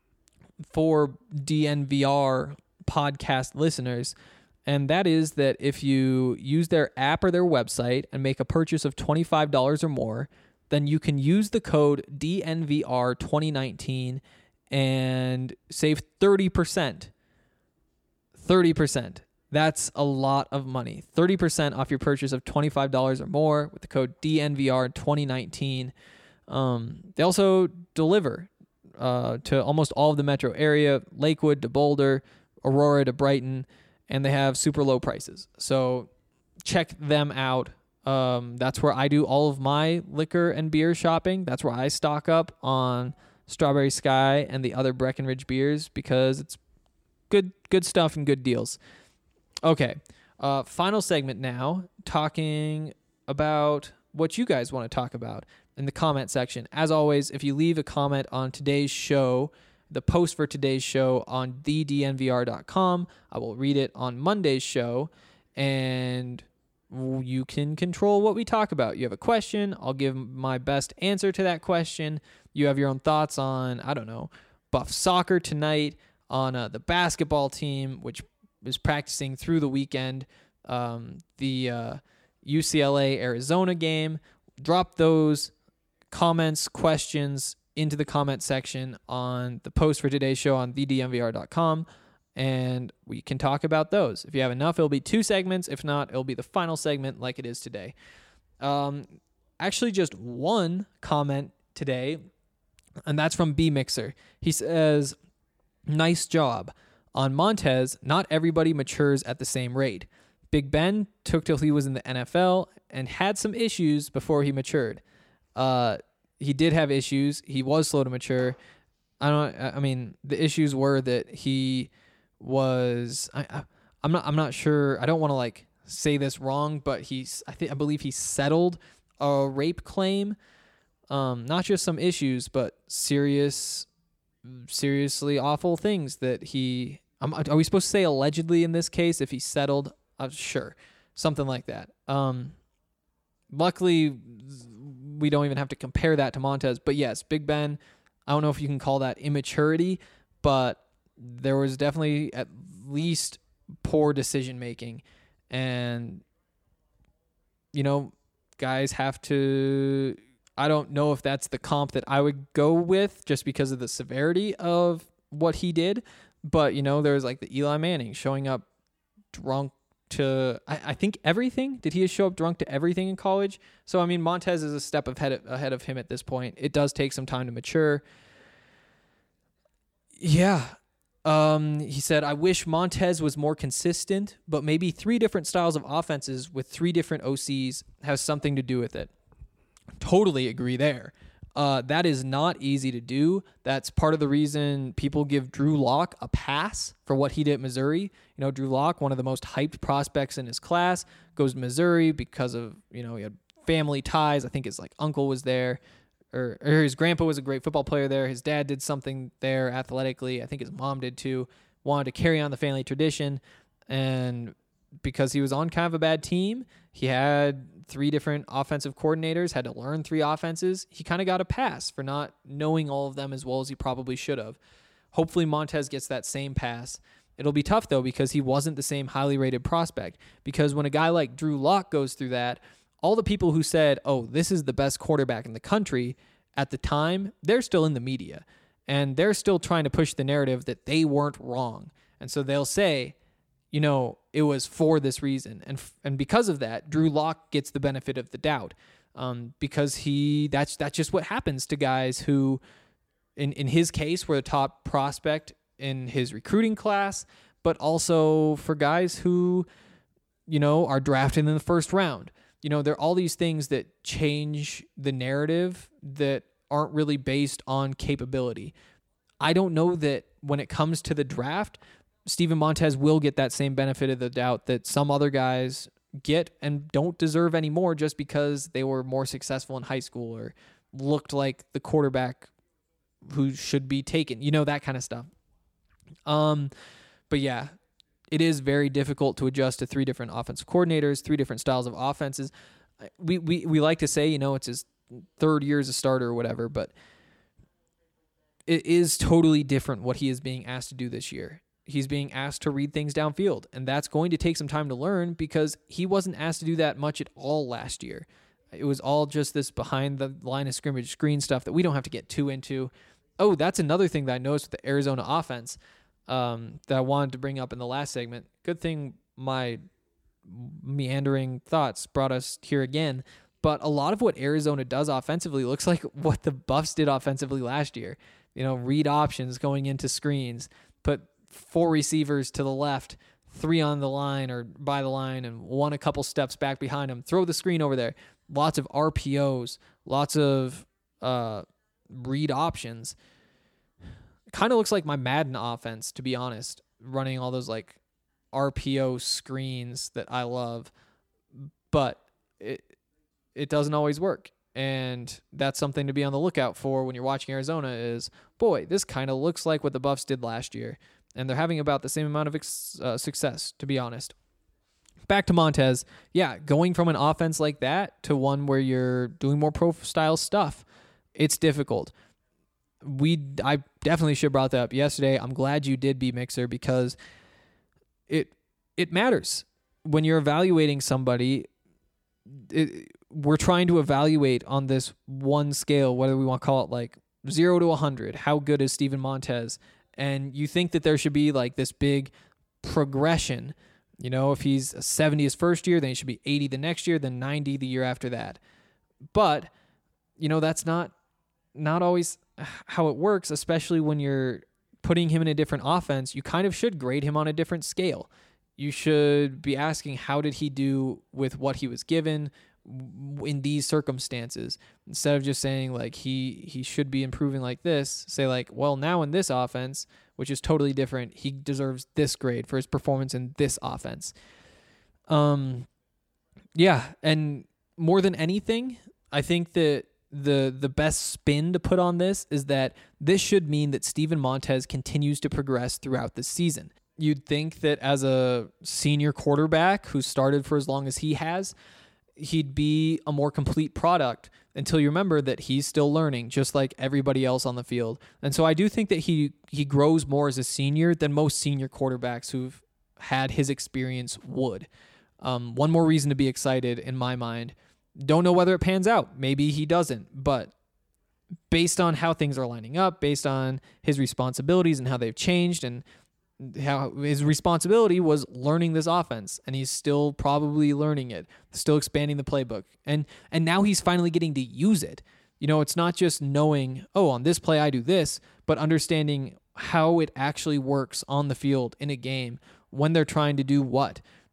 for D N V R podcast listeners. And that is that if you use their app or their website and make a purchase of twenty-five dollars or more, then you can use the code D N V R twenty nineteen and save thirty percent. thirty percent. That's a lot of money. thirty percent off your purchase of twenty-five dollars or more with the code D N V R twenty nineteen. Um, they also deliver uh, to almost all of the metro area, Lakewood to Boulder, Aurora to Brighton, and they have super low prices. So check them out. Um, that's where I do all of my liquor and beer shopping. That's where I stock up on Strawberry Sky and the other Breckenridge beers, because it's good good stuff and good deals. Okay, uh, final segment now, talking about what you guys want to talk about in the comment section. As always, if you leave a comment on today's show, the post for today's show on the D N V R dot com, I will read it on Monday's show, and you can control what we talk about. You have a question, I'll give my best answer to that question. You have your own thoughts on, I don't know, Buff soccer tonight, on uh, the basketball team, which is practicing through the weekend, um, the uh, U C L A Arizona game. Drop those comments, questions into the comment section on the post for today's show on the D N V R dot com, and we can talk about those. If you have enough, it'll be two segments. If not, it'll be the final segment like it is today. Um, actually, just one comment today, and that's from B Mixer. He says, "Nice job. On Montez, not everybody matures at the same rate. Big Ben took till he was in the N F L and had some issues before he matured. Uh, he did have issues. He was slow to mature. I don't. I mean, the issues were that he was. I, I, I'm not. I'm not sure. I don't want to like say this wrong, but he's. I think. I believe he settled a rape claim. Um, not just some issues, but serious, seriously awful things that he. Um, are we supposed to say allegedly in this case if he settled? Uh, sure, something like that. Um, luckily, we don't even have to compare that to Montez. But yes, Big Ben, I don't know if you can call that immaturity, but there was definitely at least poor decision making. And, you know, guys have to, I don't know if that's the comp that I would go with just because of the severity of what he did. But, you know, there's like the Eli Manning showing up drunk to, I, I think everything. Did he show up drunk to everything in college? So, I mean, Montez is a step ahead, ahead of him at this point. It does take some time to mature. Yeah. Um, he said, I wish Montez was more consistent, but maybe three different styles of offenses with three different O Cs has something to do with it. Totally agree there. Uh, that is not easy to do. That's part of the reason people give Drew Lock a pass for what he did at Missouri. You know, Drew Lock, one of the most hyped prospects in his class, goes to Missouri because of, you know, he had family ties. I think his like uncle was there, or, or his grandpa was a great football player there. His dad did something there athletically. I think his mom did too. Wanted to carry on the family tradition, and because he was on kind of a bad team, he had three different offensive coordinators, had to learn three offenses. He kind of got a pass for not knowing all of them as well as he probably should have. Hopefully Montez gets that same pass. It'll be tough, though, because he wasn't the same highly rated prospect. Because when a guy like Drew Lock goes through that, all the people who said, oh, this is the best quarterback in the country at the time, they're still in the media. And they're still trying to push the narrative that they weren't wrong. And so they'll say, you know, it was for this reason. And and because of that, Drew Lock gets the benefit of the doubt. Um, because he that's that's just what happens to guys who, in, in his case, were the top prospect in his recruiting class, but also for guys who, you know, are drafted in the first round. You know, there are all these things that change the narrative that aren't really based on capability. I don't know that when it comes to the draft, Steven Montez will get that same benefit of the doubt that some other guys get and don't deserve anymore just because they were more successful in high school or looked like the quarterback who should be taken, you know, that kind of stuff. Um, but yeah, it is very difficult to adjust to three different offensive coordinators, three different styles of offenses. We, we, we like to say, you know, it's his third year as a starter or whatever, but it is totally different what he is being asked to do this year. He's being asked to read things downfield, and that's going to take some time to learn because he wasn't asked to do that much at all last year. It was all just this behind the line of scrimmage screen stuff that we don't have to get too into. Oh, that's another thing that I noticed with the Arizona offense um, that I wanted to bring up in the last segment. Good thing my meandering thoughts brought us here again. But a lot of what Arizona does offensively looks like what the Buffs did offensively last year. You know, read options going into screens, put four receivers to the left, three on the line or by the line, and one a couple steps back behind them. Throw the screen over there. Lots of R P Os, lots of uh, read options. Kind of looks like my Madden offense, to be honest, running all those like R P O screens that I love. But it it doesn't always work. And that's something to be on the lookout for when you're watching Arizona is, boy, this kind of looks like what the Buffs did last year. And they're having about the same amount of ex- uh, success, to be honest. Back to Montez. Yeah, going from an offense like that to one where you're doing more pro-style stuff, it's difficult. We, I definitely should have brought that up yesterday. I'm glad you did, B-Mixer, because it it matters. When you're evaluating somebody, it, we're trying to evaluate on this one scale, whether we want to call it like zero to one hundred. How good is Steven Montez? And you think that there should be like this big progression. You know, if he's a seventy his first year, then he should be eighty the next year, then ninety the year after that. But, you know, that's not not always how it works, especially when you're putting him in a different offense. You kind of should grade him on a different scale. You should be asking, how did he do with what he was given in these circumstances? Instead of just saying like he he should be improving like this, say like, well, now in this offense, which is totally different, he deserves this grade for his performance in this offense. Um, yeah, and more than anything, I think that the the best spin to put on this is that this should mean that Steven Montez continues to progress throughout the season. You'd think that as a senior quarterback who started for as long as he has, he'd be a more complete product until you remember that he's still learning just like everybody else on the field. And so I do think that he he grows more as a senior than most senior quarterbacks who've had his experience would. Um, one more reason to be excited in my mind. Don't know whether it pans out. Maybe he doesn't, but based on how things are lining up, based on his responsibilities and how they've changed, and how his responsibility was learning this offense, and he's still probably learning it, still expanding the playbook. And and now he's finally getting to use it. You know, it's not just knowing, oh, on this play I do this, but understanding how it actually works on the field in a game when they're trying to do what.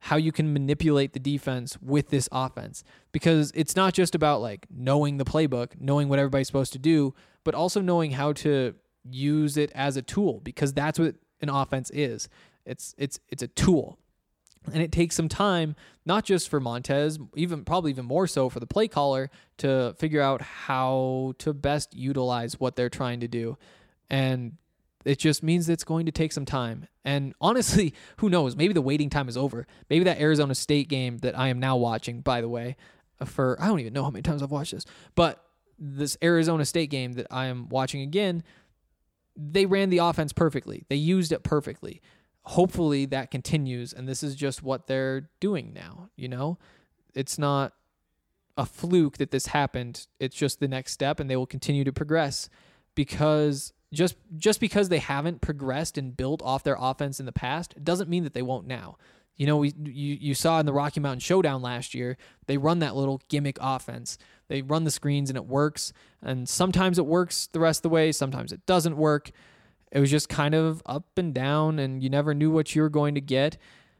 how you can manipulate the defense with this offense, because it's not just about like knowing the playbook, knowing what everybody's supposed to do, but also knowing how to use it as a tool, because that's what an offense is. It's it's it's a tool. And it takes some time, not just for Montez, even probably even more so for the play caller, to figure out how to best utilize what they're trying to do. And it just means it's going to take some time. And honestly, who knows? Maybe the waiting time is over. Maybe that Arizona State game that I am now watching, by the way, for, I don't even know how many times I've watched this, but this Arizona State game that I am watching again, they ran the offense perfectly. They used it perfectly. Hopefully that continues, and this is just what they're doing now, you know? It's not a fluke that this happened. It's just the next step, and they will continue to progress, because just just because they haven't progressed and built off their offense in the past, it doesn't mean that they won't now. You know, we you, you saw in the Rocky Mountain Showdown last year, they run that little gimmick offense. They run the screens, and it works, and sometimes it works the rest of the way, sometimes it doesn't work. It was just kind of up and down, and you never knew what you were going to get.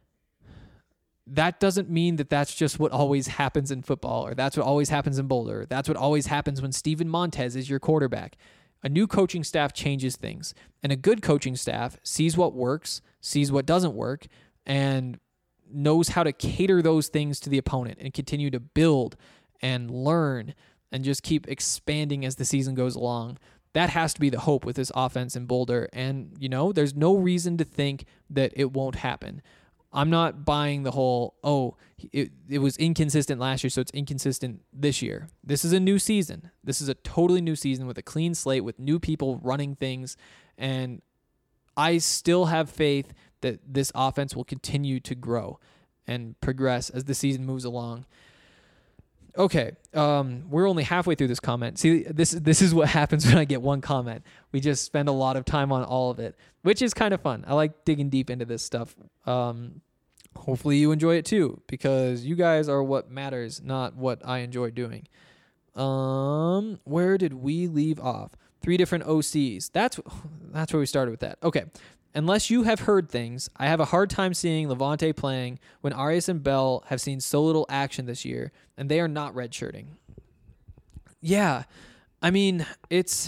That doesn't mean that that's just what always happens in football, or that's what always happens in Boulder. Or that's what always happens when Steven Montez is your quarterback. A new coaching staff changes things, and a good coaching staff sees what works, sees what doesn't work, and knows how to cater those things to the opponent and continue to build and learn and just keep expanding as the season goes along. That has to be the hope with this offense in Boulder. And, you know, there's no reason to think that it won't happen. I'm not buying the whole, oh, it, it was inconsistent last year, so it's inconsistent this year. This is a new season. This is a totally new season with a clean slate, with new people running things. And I still have faith that this offense will continue to grow and progress as the season moves along. Okay, um, we're only halfway through this comment. See, this this is what happens when I get one comment. We just spend a lot of time on all of it, which is kind of fun. I like digging deep into this stuff. Um, hopefully you enjoy it too, because you guys are what matters, not what I enjoy doing. Um, where did we leave off? Three different O Cs. That's that's where we started with that. Okay. Unless you have heard things, I have a hard time seeing Levante playing when Arias and Bell have seen so little action this year, and they are not redshirting. Yeah, I mean, it's...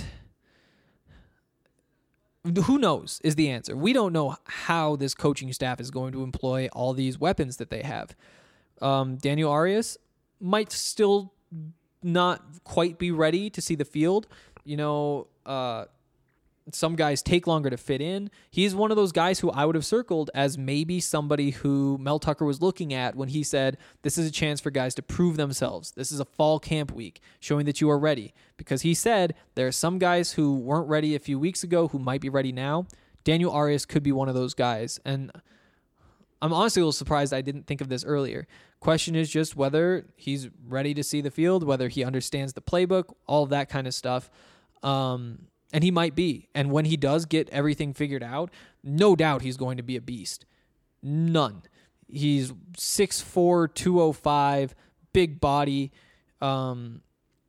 Who knows is the answer. We don't know how this coaching staff is going to employ all these weapons that they have. Um, Daniel Arias might still not quite be ready to see the field. You know... Uh, Some guys take longer to fit in. He's one of those guys who I would have circled as maybe somebody who Mel Tucker was looking at when he said, this is a chance for guys to prove themselves. This is a fall camp week, showing that you are ready. Because he said there are some guys who weren't ready a few weeks ago who might be ready now. Daniel Arias could be one of those guys. And I'm honestly a little surprised I didn't think of this earlier. Question is just whether he's ready to see the field, whether he understands the playbook, all of that kind of stuff. Um... And he might be. And when he does get everything figured out, no doubt he's going to be a beast. None. He's six four, two oh five, big body. Um,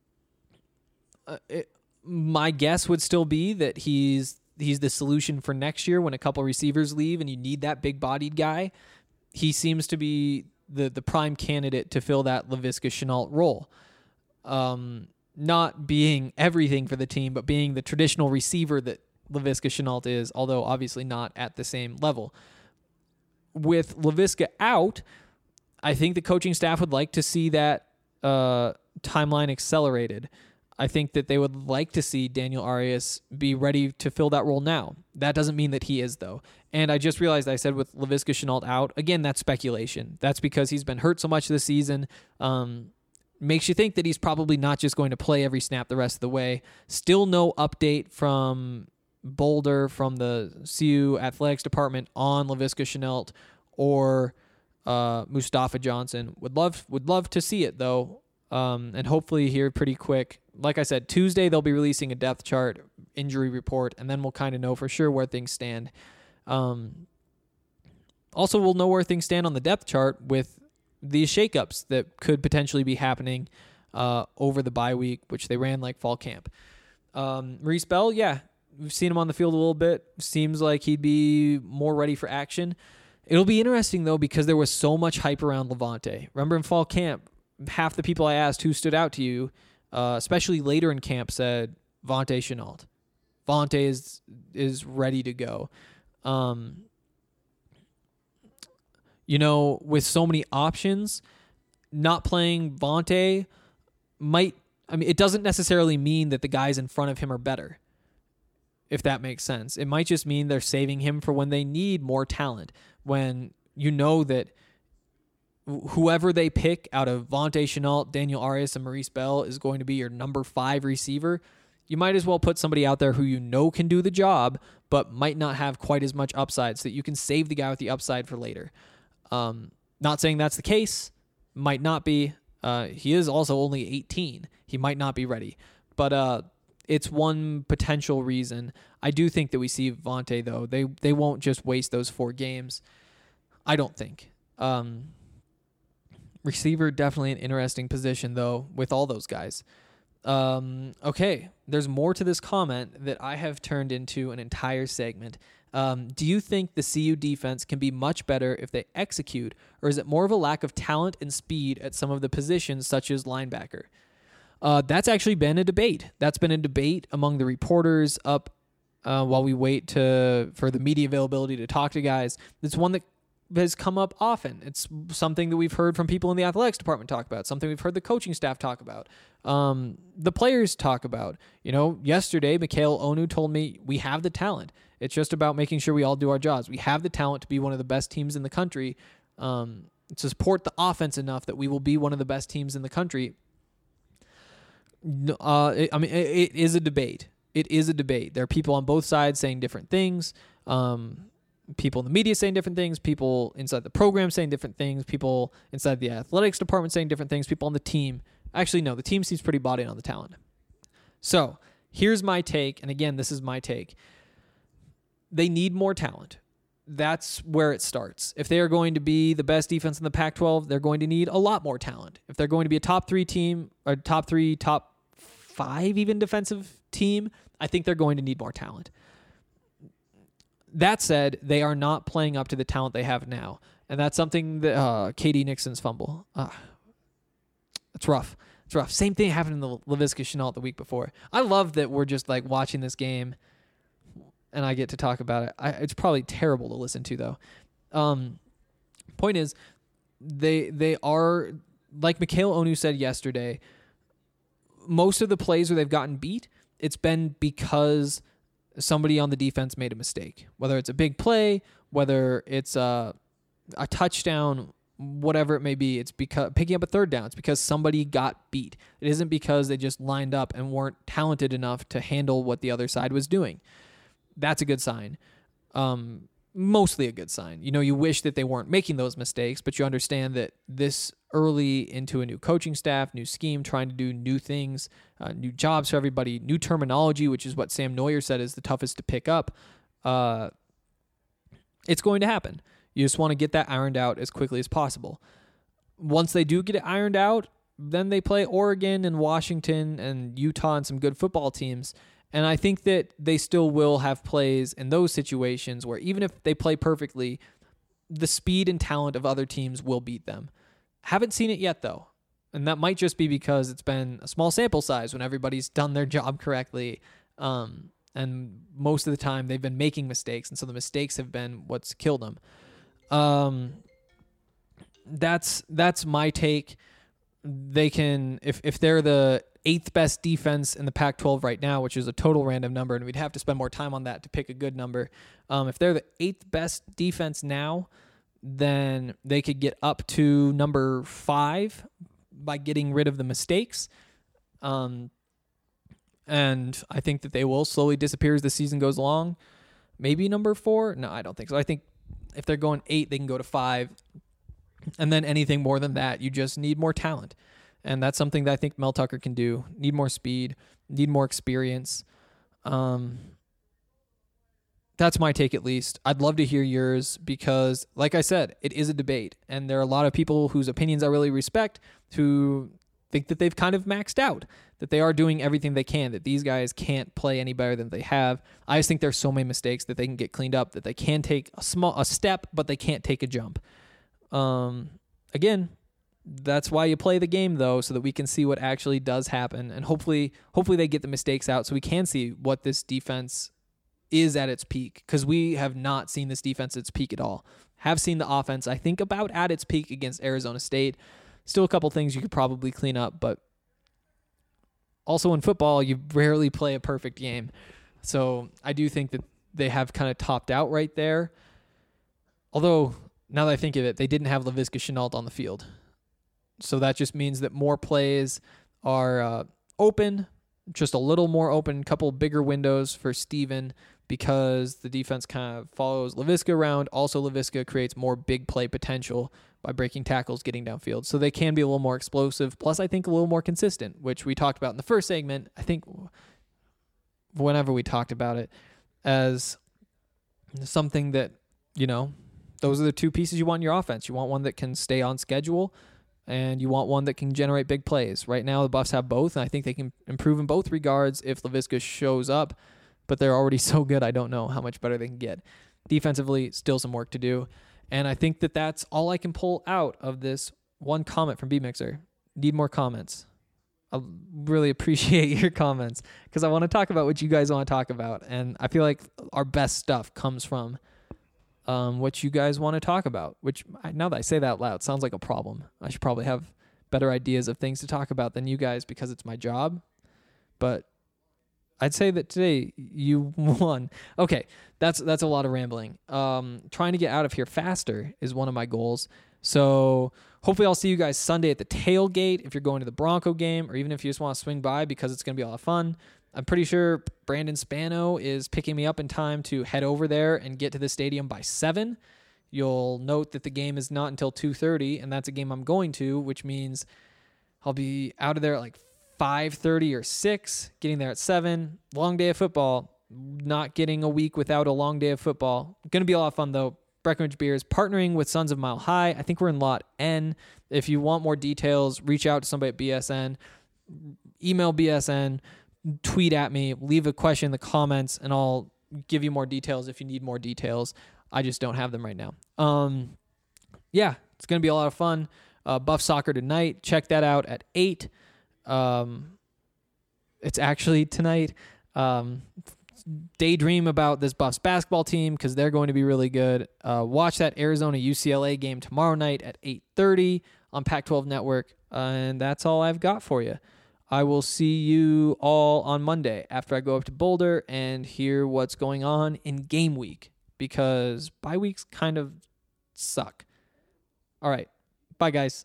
it, my guess would still be that he's he's the solution for next year when a couple receivers leave and you need that big-bodied guy. He seems to be the, the prime candidate to fill that Laviska Shenault role. Um Not being everything for the team, but being the traditional receiver that Laviska Shenault is, although obviously not at the same level. With Laviska out, I think the coaching staff would like to see that uh, timeline accelerated. I think that they would like to see Daniel Arias be ready to fill that role now. That doesn't mean that he is, though. And I just realized I said with Laviska Shenault out, again, that's speculation. That's because he's been hurt so much this season. Um... Makes you think that he's probably not just going to play every snap the rest of the way. Still no update from Boulder, from the C U athletics department on Laviska Shenault or uh, Mustafa Johnson. Would love would love to see it, though, um, and hopefully here pretty quick. Like I said, Tuesday they'll be releasing a depth chart, injury report, and then we'll kind of know for sure where things stand. Um, also, we'll know where things stand on the depth chart with these shakeups that could potentially be happening uh, over the bye week, which they ran like fall camp. Um, Maurice Bell, yeah, we've seen him on the field a little bit. Seems like he'd be more ready for action. It'll be interesting, though, because there was so much hype around Levante. Remember in fall camp, half the people I asked who stood out to you, uh, especially later in camp, said Vontae Chenault. Vontae is is ready to go. Um, you know, with so many options, not playing Vontae might, I mean, it doesn't necessarily mean that the guys in front of him are better, if that makes sense. It might just mean they're saving him for when they need more talent, when you know that whoever they pick out of Vontae Chenault, Daniel Arias, and Maurice Bell is going to be your number five receiver. You might as well put somebody out there who you know can do the job, but might not have quite as much upside, so that you can save the guy with the upside for later. Um, not saying that's the case. Might not be. Uh, he is also only eighteen. He might not be ready. But uh, it's one potential reason. I do think that we see Vontae, though. They they won't just waste those four games. I don't think. Um, receiver, definitely an interesting position, though, with all those guys. Um, okay, there's more to this comment that I have turned into an entire segment. Um, do you think the C U defense can be much better if they execute, or is it more of a lack of talent and speed at some of the positions, such as linebacker? Uh, that's actually been a debate. That's been a debate among the reporters up uh, while we wait to for the media availability to talk to guys. It's one that has come up often. It's something that we've heard from people in the athletics department talk about, something we've heard the coaching staff talk about, um, the players talk about. You know, yesterday, Mikhail Onu told me we have the talent. It's just about making sure we all do our jobs. We have the talent to be one of the best teams in the country, um, to support the offense enough that we will be one of the best teams in the country. Uh, it, I mean, it, it is a debate. It is a debate. There are people on both sides saying different things. Um, people in the media saying different things. People inside the program saying different things. People inside the athletics department saying different things. People on the team. Actually, no, the team seems pretty bought in on the talent. So here's my take. And again, this is my take. They need more talent. That's where it starts. If they are going to be the best defense in the Pac twelve, they're going to need a lot more talent. If they're going to be a top three team, or top three, top five even defensive team, I think they're going to need more talent. That said, they are not playing up to the talent they have now. And that's something that uh, K D Nixon's fumble. Uh, it's rough. It's rough. Same thing happened in the Laviska Shenault the week before. I love that we're just like watching this game and I get to talk about it. I, it's probably terrible to listen to, though. Um, point is, they they are, like Mikhail Onu said yesterday, most of the plays where they've gotten beat, it's been because somebody on the defense made a mistake. Whether it's a big play, whether it's a, a touchdown, whatever it may be, it's because picking up a third down. It's because somebody got beat. It isn't because they just lined up and weren't talented enough to handle what the other side was doing. That's a good sign. Um, mostly a good sign. You know, you wish that they weren't making those mistakes, but you understand that this early into a new coaching staff, new scheme, trying to do new things, uh, new jobs for everybody, new terminology, which is what Sam Neuer said is the toughest to pick up. Uh, it's going to happen. You just want to get that ironed out as quickly as possible. Once they do get it ironed out, then they play Oregon and Washington and Utah and some good football teams. And I think that they still will have plays in those situations where even if they play perfectly, the speed and talent of other teams will beat them. Haven't seen it yet, though. And that might just be because it's been a small sample size when everybody's done their job correctly. Um, and most of the time they've been making mistakes. And so the mistakes have been what's killed them. Um, that's, that's my take. They can, if, if they're the eighth best defense in the Pac twelve right now, which is a total random number, and we'd have to spend more time on that to pick a good number. Um, if they're the eighth best defense now, then they could get up to number five by getting rid of the mistakes. Um, and I think that they will slowly disappear as the season goes along. Maybe number four? No, I don't think so. I think if they're going eight, they can go to five. And then anything more than that, you just need more talent. And that's something that I think Mel Tucker can do. Need more speed, need more experience. Um, that's my take, at least. I'd love to hear yours because, like I said, it is a debate. And there are a lot of people whose opinions I really respect who think that they've kind of maxed out, that they are doing everything they can, that these guys can't play any better than they have. I just think there's so many mistakes that they can get cleaned up, that they can take a small a step, but they can't take a jump. Um, again, that's why you play the game, though, so that we can see what actually does happen, and hopefully, hopefully they get the mistakes out so we can see what this defense is at its peak, because we have not seen this defense at its peak at all. Have seen the offense, I think, about at its peak against Arizona State. Still a couple things you could probably clean up, but also in football, you rarely play a perfect game. So I do think that they have kind of topped out right there. Although, now that I think of it, they didn't have Laviska Shenault on the field. So that just means that more plays are uh, open, just a little more open, couple bigger windows for Steven, because the defense kind of follows Laviska around. Also, Laviska creates more big play potential by breaking tackles, getting downfield. So they can be a little more explosive, plus I think a little more consistent, which we talked about in the first segment. I think whenever we talked about it as something that, you know, those are the two pieces you want in your offense. You want one that can stay on schedule, and you want one that can generate big plays. Right now, the Buffs have both, and I think they can improve in both regards if Laviska shows up, but they're already so good, I don't know how much better they can get. Defensively, still some work to do, and I think that that's all I can pull out of this one comment from B-Mixer. Need more comments. I really appreciate your comments, because I want to talk about what you guys want to talk about, and I feel like our best stuff comes from Um, what you guys want to talk about, which now that I say that out loud, sounds like a problem. I should probably have better ideas of things to talk about than you guys, because it's my job. But I'd say that today you won. Okay, that's that's a lot of rambling. Um, trying to get out of here faster is one of my goals. So hopefully I'll see you guys Sunday at the tailgate if you're going to the Bronco game, or even if you just want to swing by, because it's going to be a lot of fun. I'm pretty sure Brandon Spano is picking me up in time to head over there and get to the stadium by seven. You'll note that the game is not until two thirty, and that's a game I'm going to, which means I'll be out of there at like five thirty or six, getting there at seven. Long day of football. Not getting a week without a long day of football. Going to be a lot of fun, though. Breckenridge Beers partnering with Sons of Mile High. I think we're in Lot N. If you want more details, reach out to somebody at B S N. Email B S N. Tweet at me, leave a question in the comments, and I'll give you more details if you need more details. I just don't have them right now. Um, yeah, it's going to be a lot of fun. Uh, Buff Soccer tonight. Check that out at eight. Um, it's actually tonight. Um, daydream about this Buffs basketball team, because they're going to be really good. Uh, watch that Arizona U C L A game tomorrow night at eight thirty on Pac twelve Network. Uh, and that's all I've got for you. I will see you all on Monday after I go up to Boulder and hear what's going on in game week, because bye weeks kind of suck. All right. Bye, guys.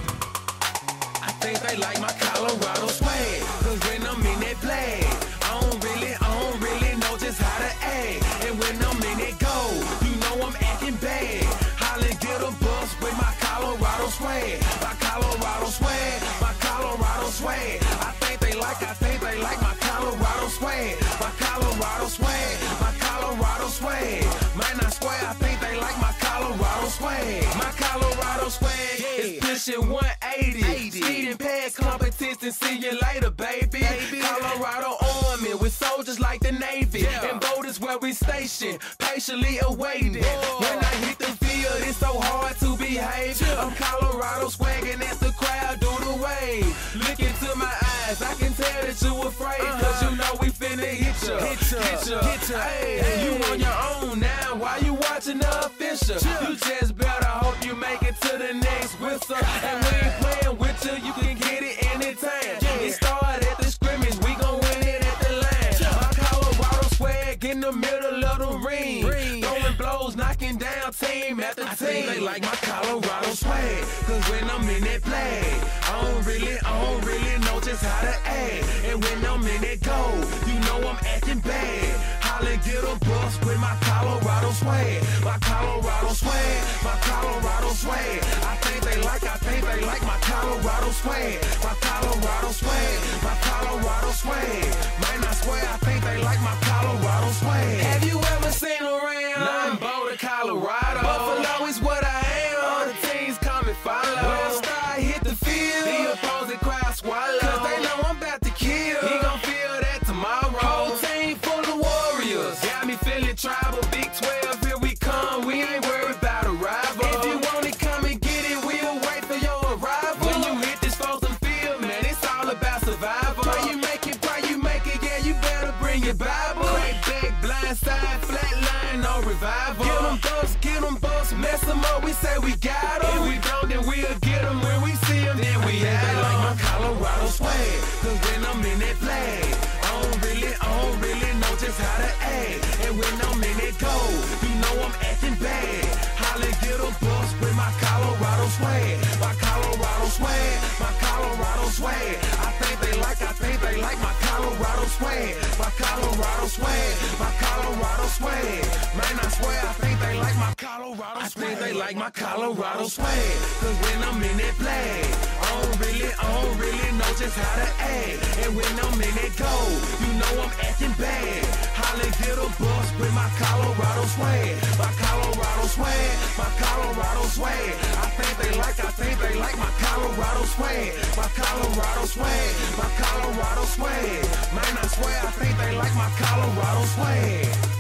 I think they like my Colorado swag, 'cause when I'm in that play, I don't really, I don't really know just how to act. And when I'm in it go, you know I'm acting bad. Holla, get a bus with my Colorado swag. My Colorado swag, my Colorado swag. I think they like, I think they like my Colorado swag. My Colorado swag, my Colorado swag. Man, I swear, I think they like my Colorado swag. My Colorado swag is pushing one eighty. Speeding past competition, see you later, baby. baby. Colorado Army with soldiers like the Navy. Yeah. And boat is where we station, patiently awaiting. Whoa. When I hit the field, it's so hard to behave. Yeah. I'm Colorado swagging as the crowd do the wave. Look into my eyes, I can tell that you afraid. Uh-huh. Cause you know we finna hit ya, hit ya, hit ya. Hit ya. Hey, hey. You on your own now, why you watching the official? Yeah. You just better hope you make it to the next whistle. And we ain't playing with you, you can get it anytime. Yeah. It started at the scrimmage, we gon' win it at the line. Yeah. My Colorado swag in the middle of the ring. ring. Throwing blows, knocking down team after I team. Think they like my Colorado swag, cause when I'm in that play, I don't really, I don't really know just how to act. And when I'm in that go, you know I'm acting bad. Holla, get a bus with my Colorado swag. My Colorado swag, my Colorado swag. I think they like, I think they like my Colorado swag. My Colorado swag, my Colorado swag. Man, I swear, I think they like my Colorado swag. Have you ever seen around? Nothing Boulder, Colorado. Buffalo is what I am. All the teams come and follow. When I start hit the field, the opposing crowd survival. Get them thugs, get them busts, mess them up, we say we got them. If we don't, then we'll get them when we see them, then we had them. They like my Colorado swag, cause when I'm in that flag, I don't really, I don't really know just how to act. And when I'm in that gold, you know I'm acting bad. Holla, get a bus with my Colorado swag, my Colorado swag, my Colorado swag. I think they like, I think they like my Colorado swag, my Colorado swag, my Colorado swag. Man, I swear, I think they like my Colorado swag. I think they like my Colorado swag, cause when I'm in that flag, I don't really, I don't really know just how to act. And when I'm in that gold, you know I'm acting bad. Holla, get a bus with my Colorado swag, my Colorado swag, my Colorado swag. I think they like, I think they like my Colorado swag, my Colorado swag, my Colorado swag. Man, I swear, I think they like my Colorado swag.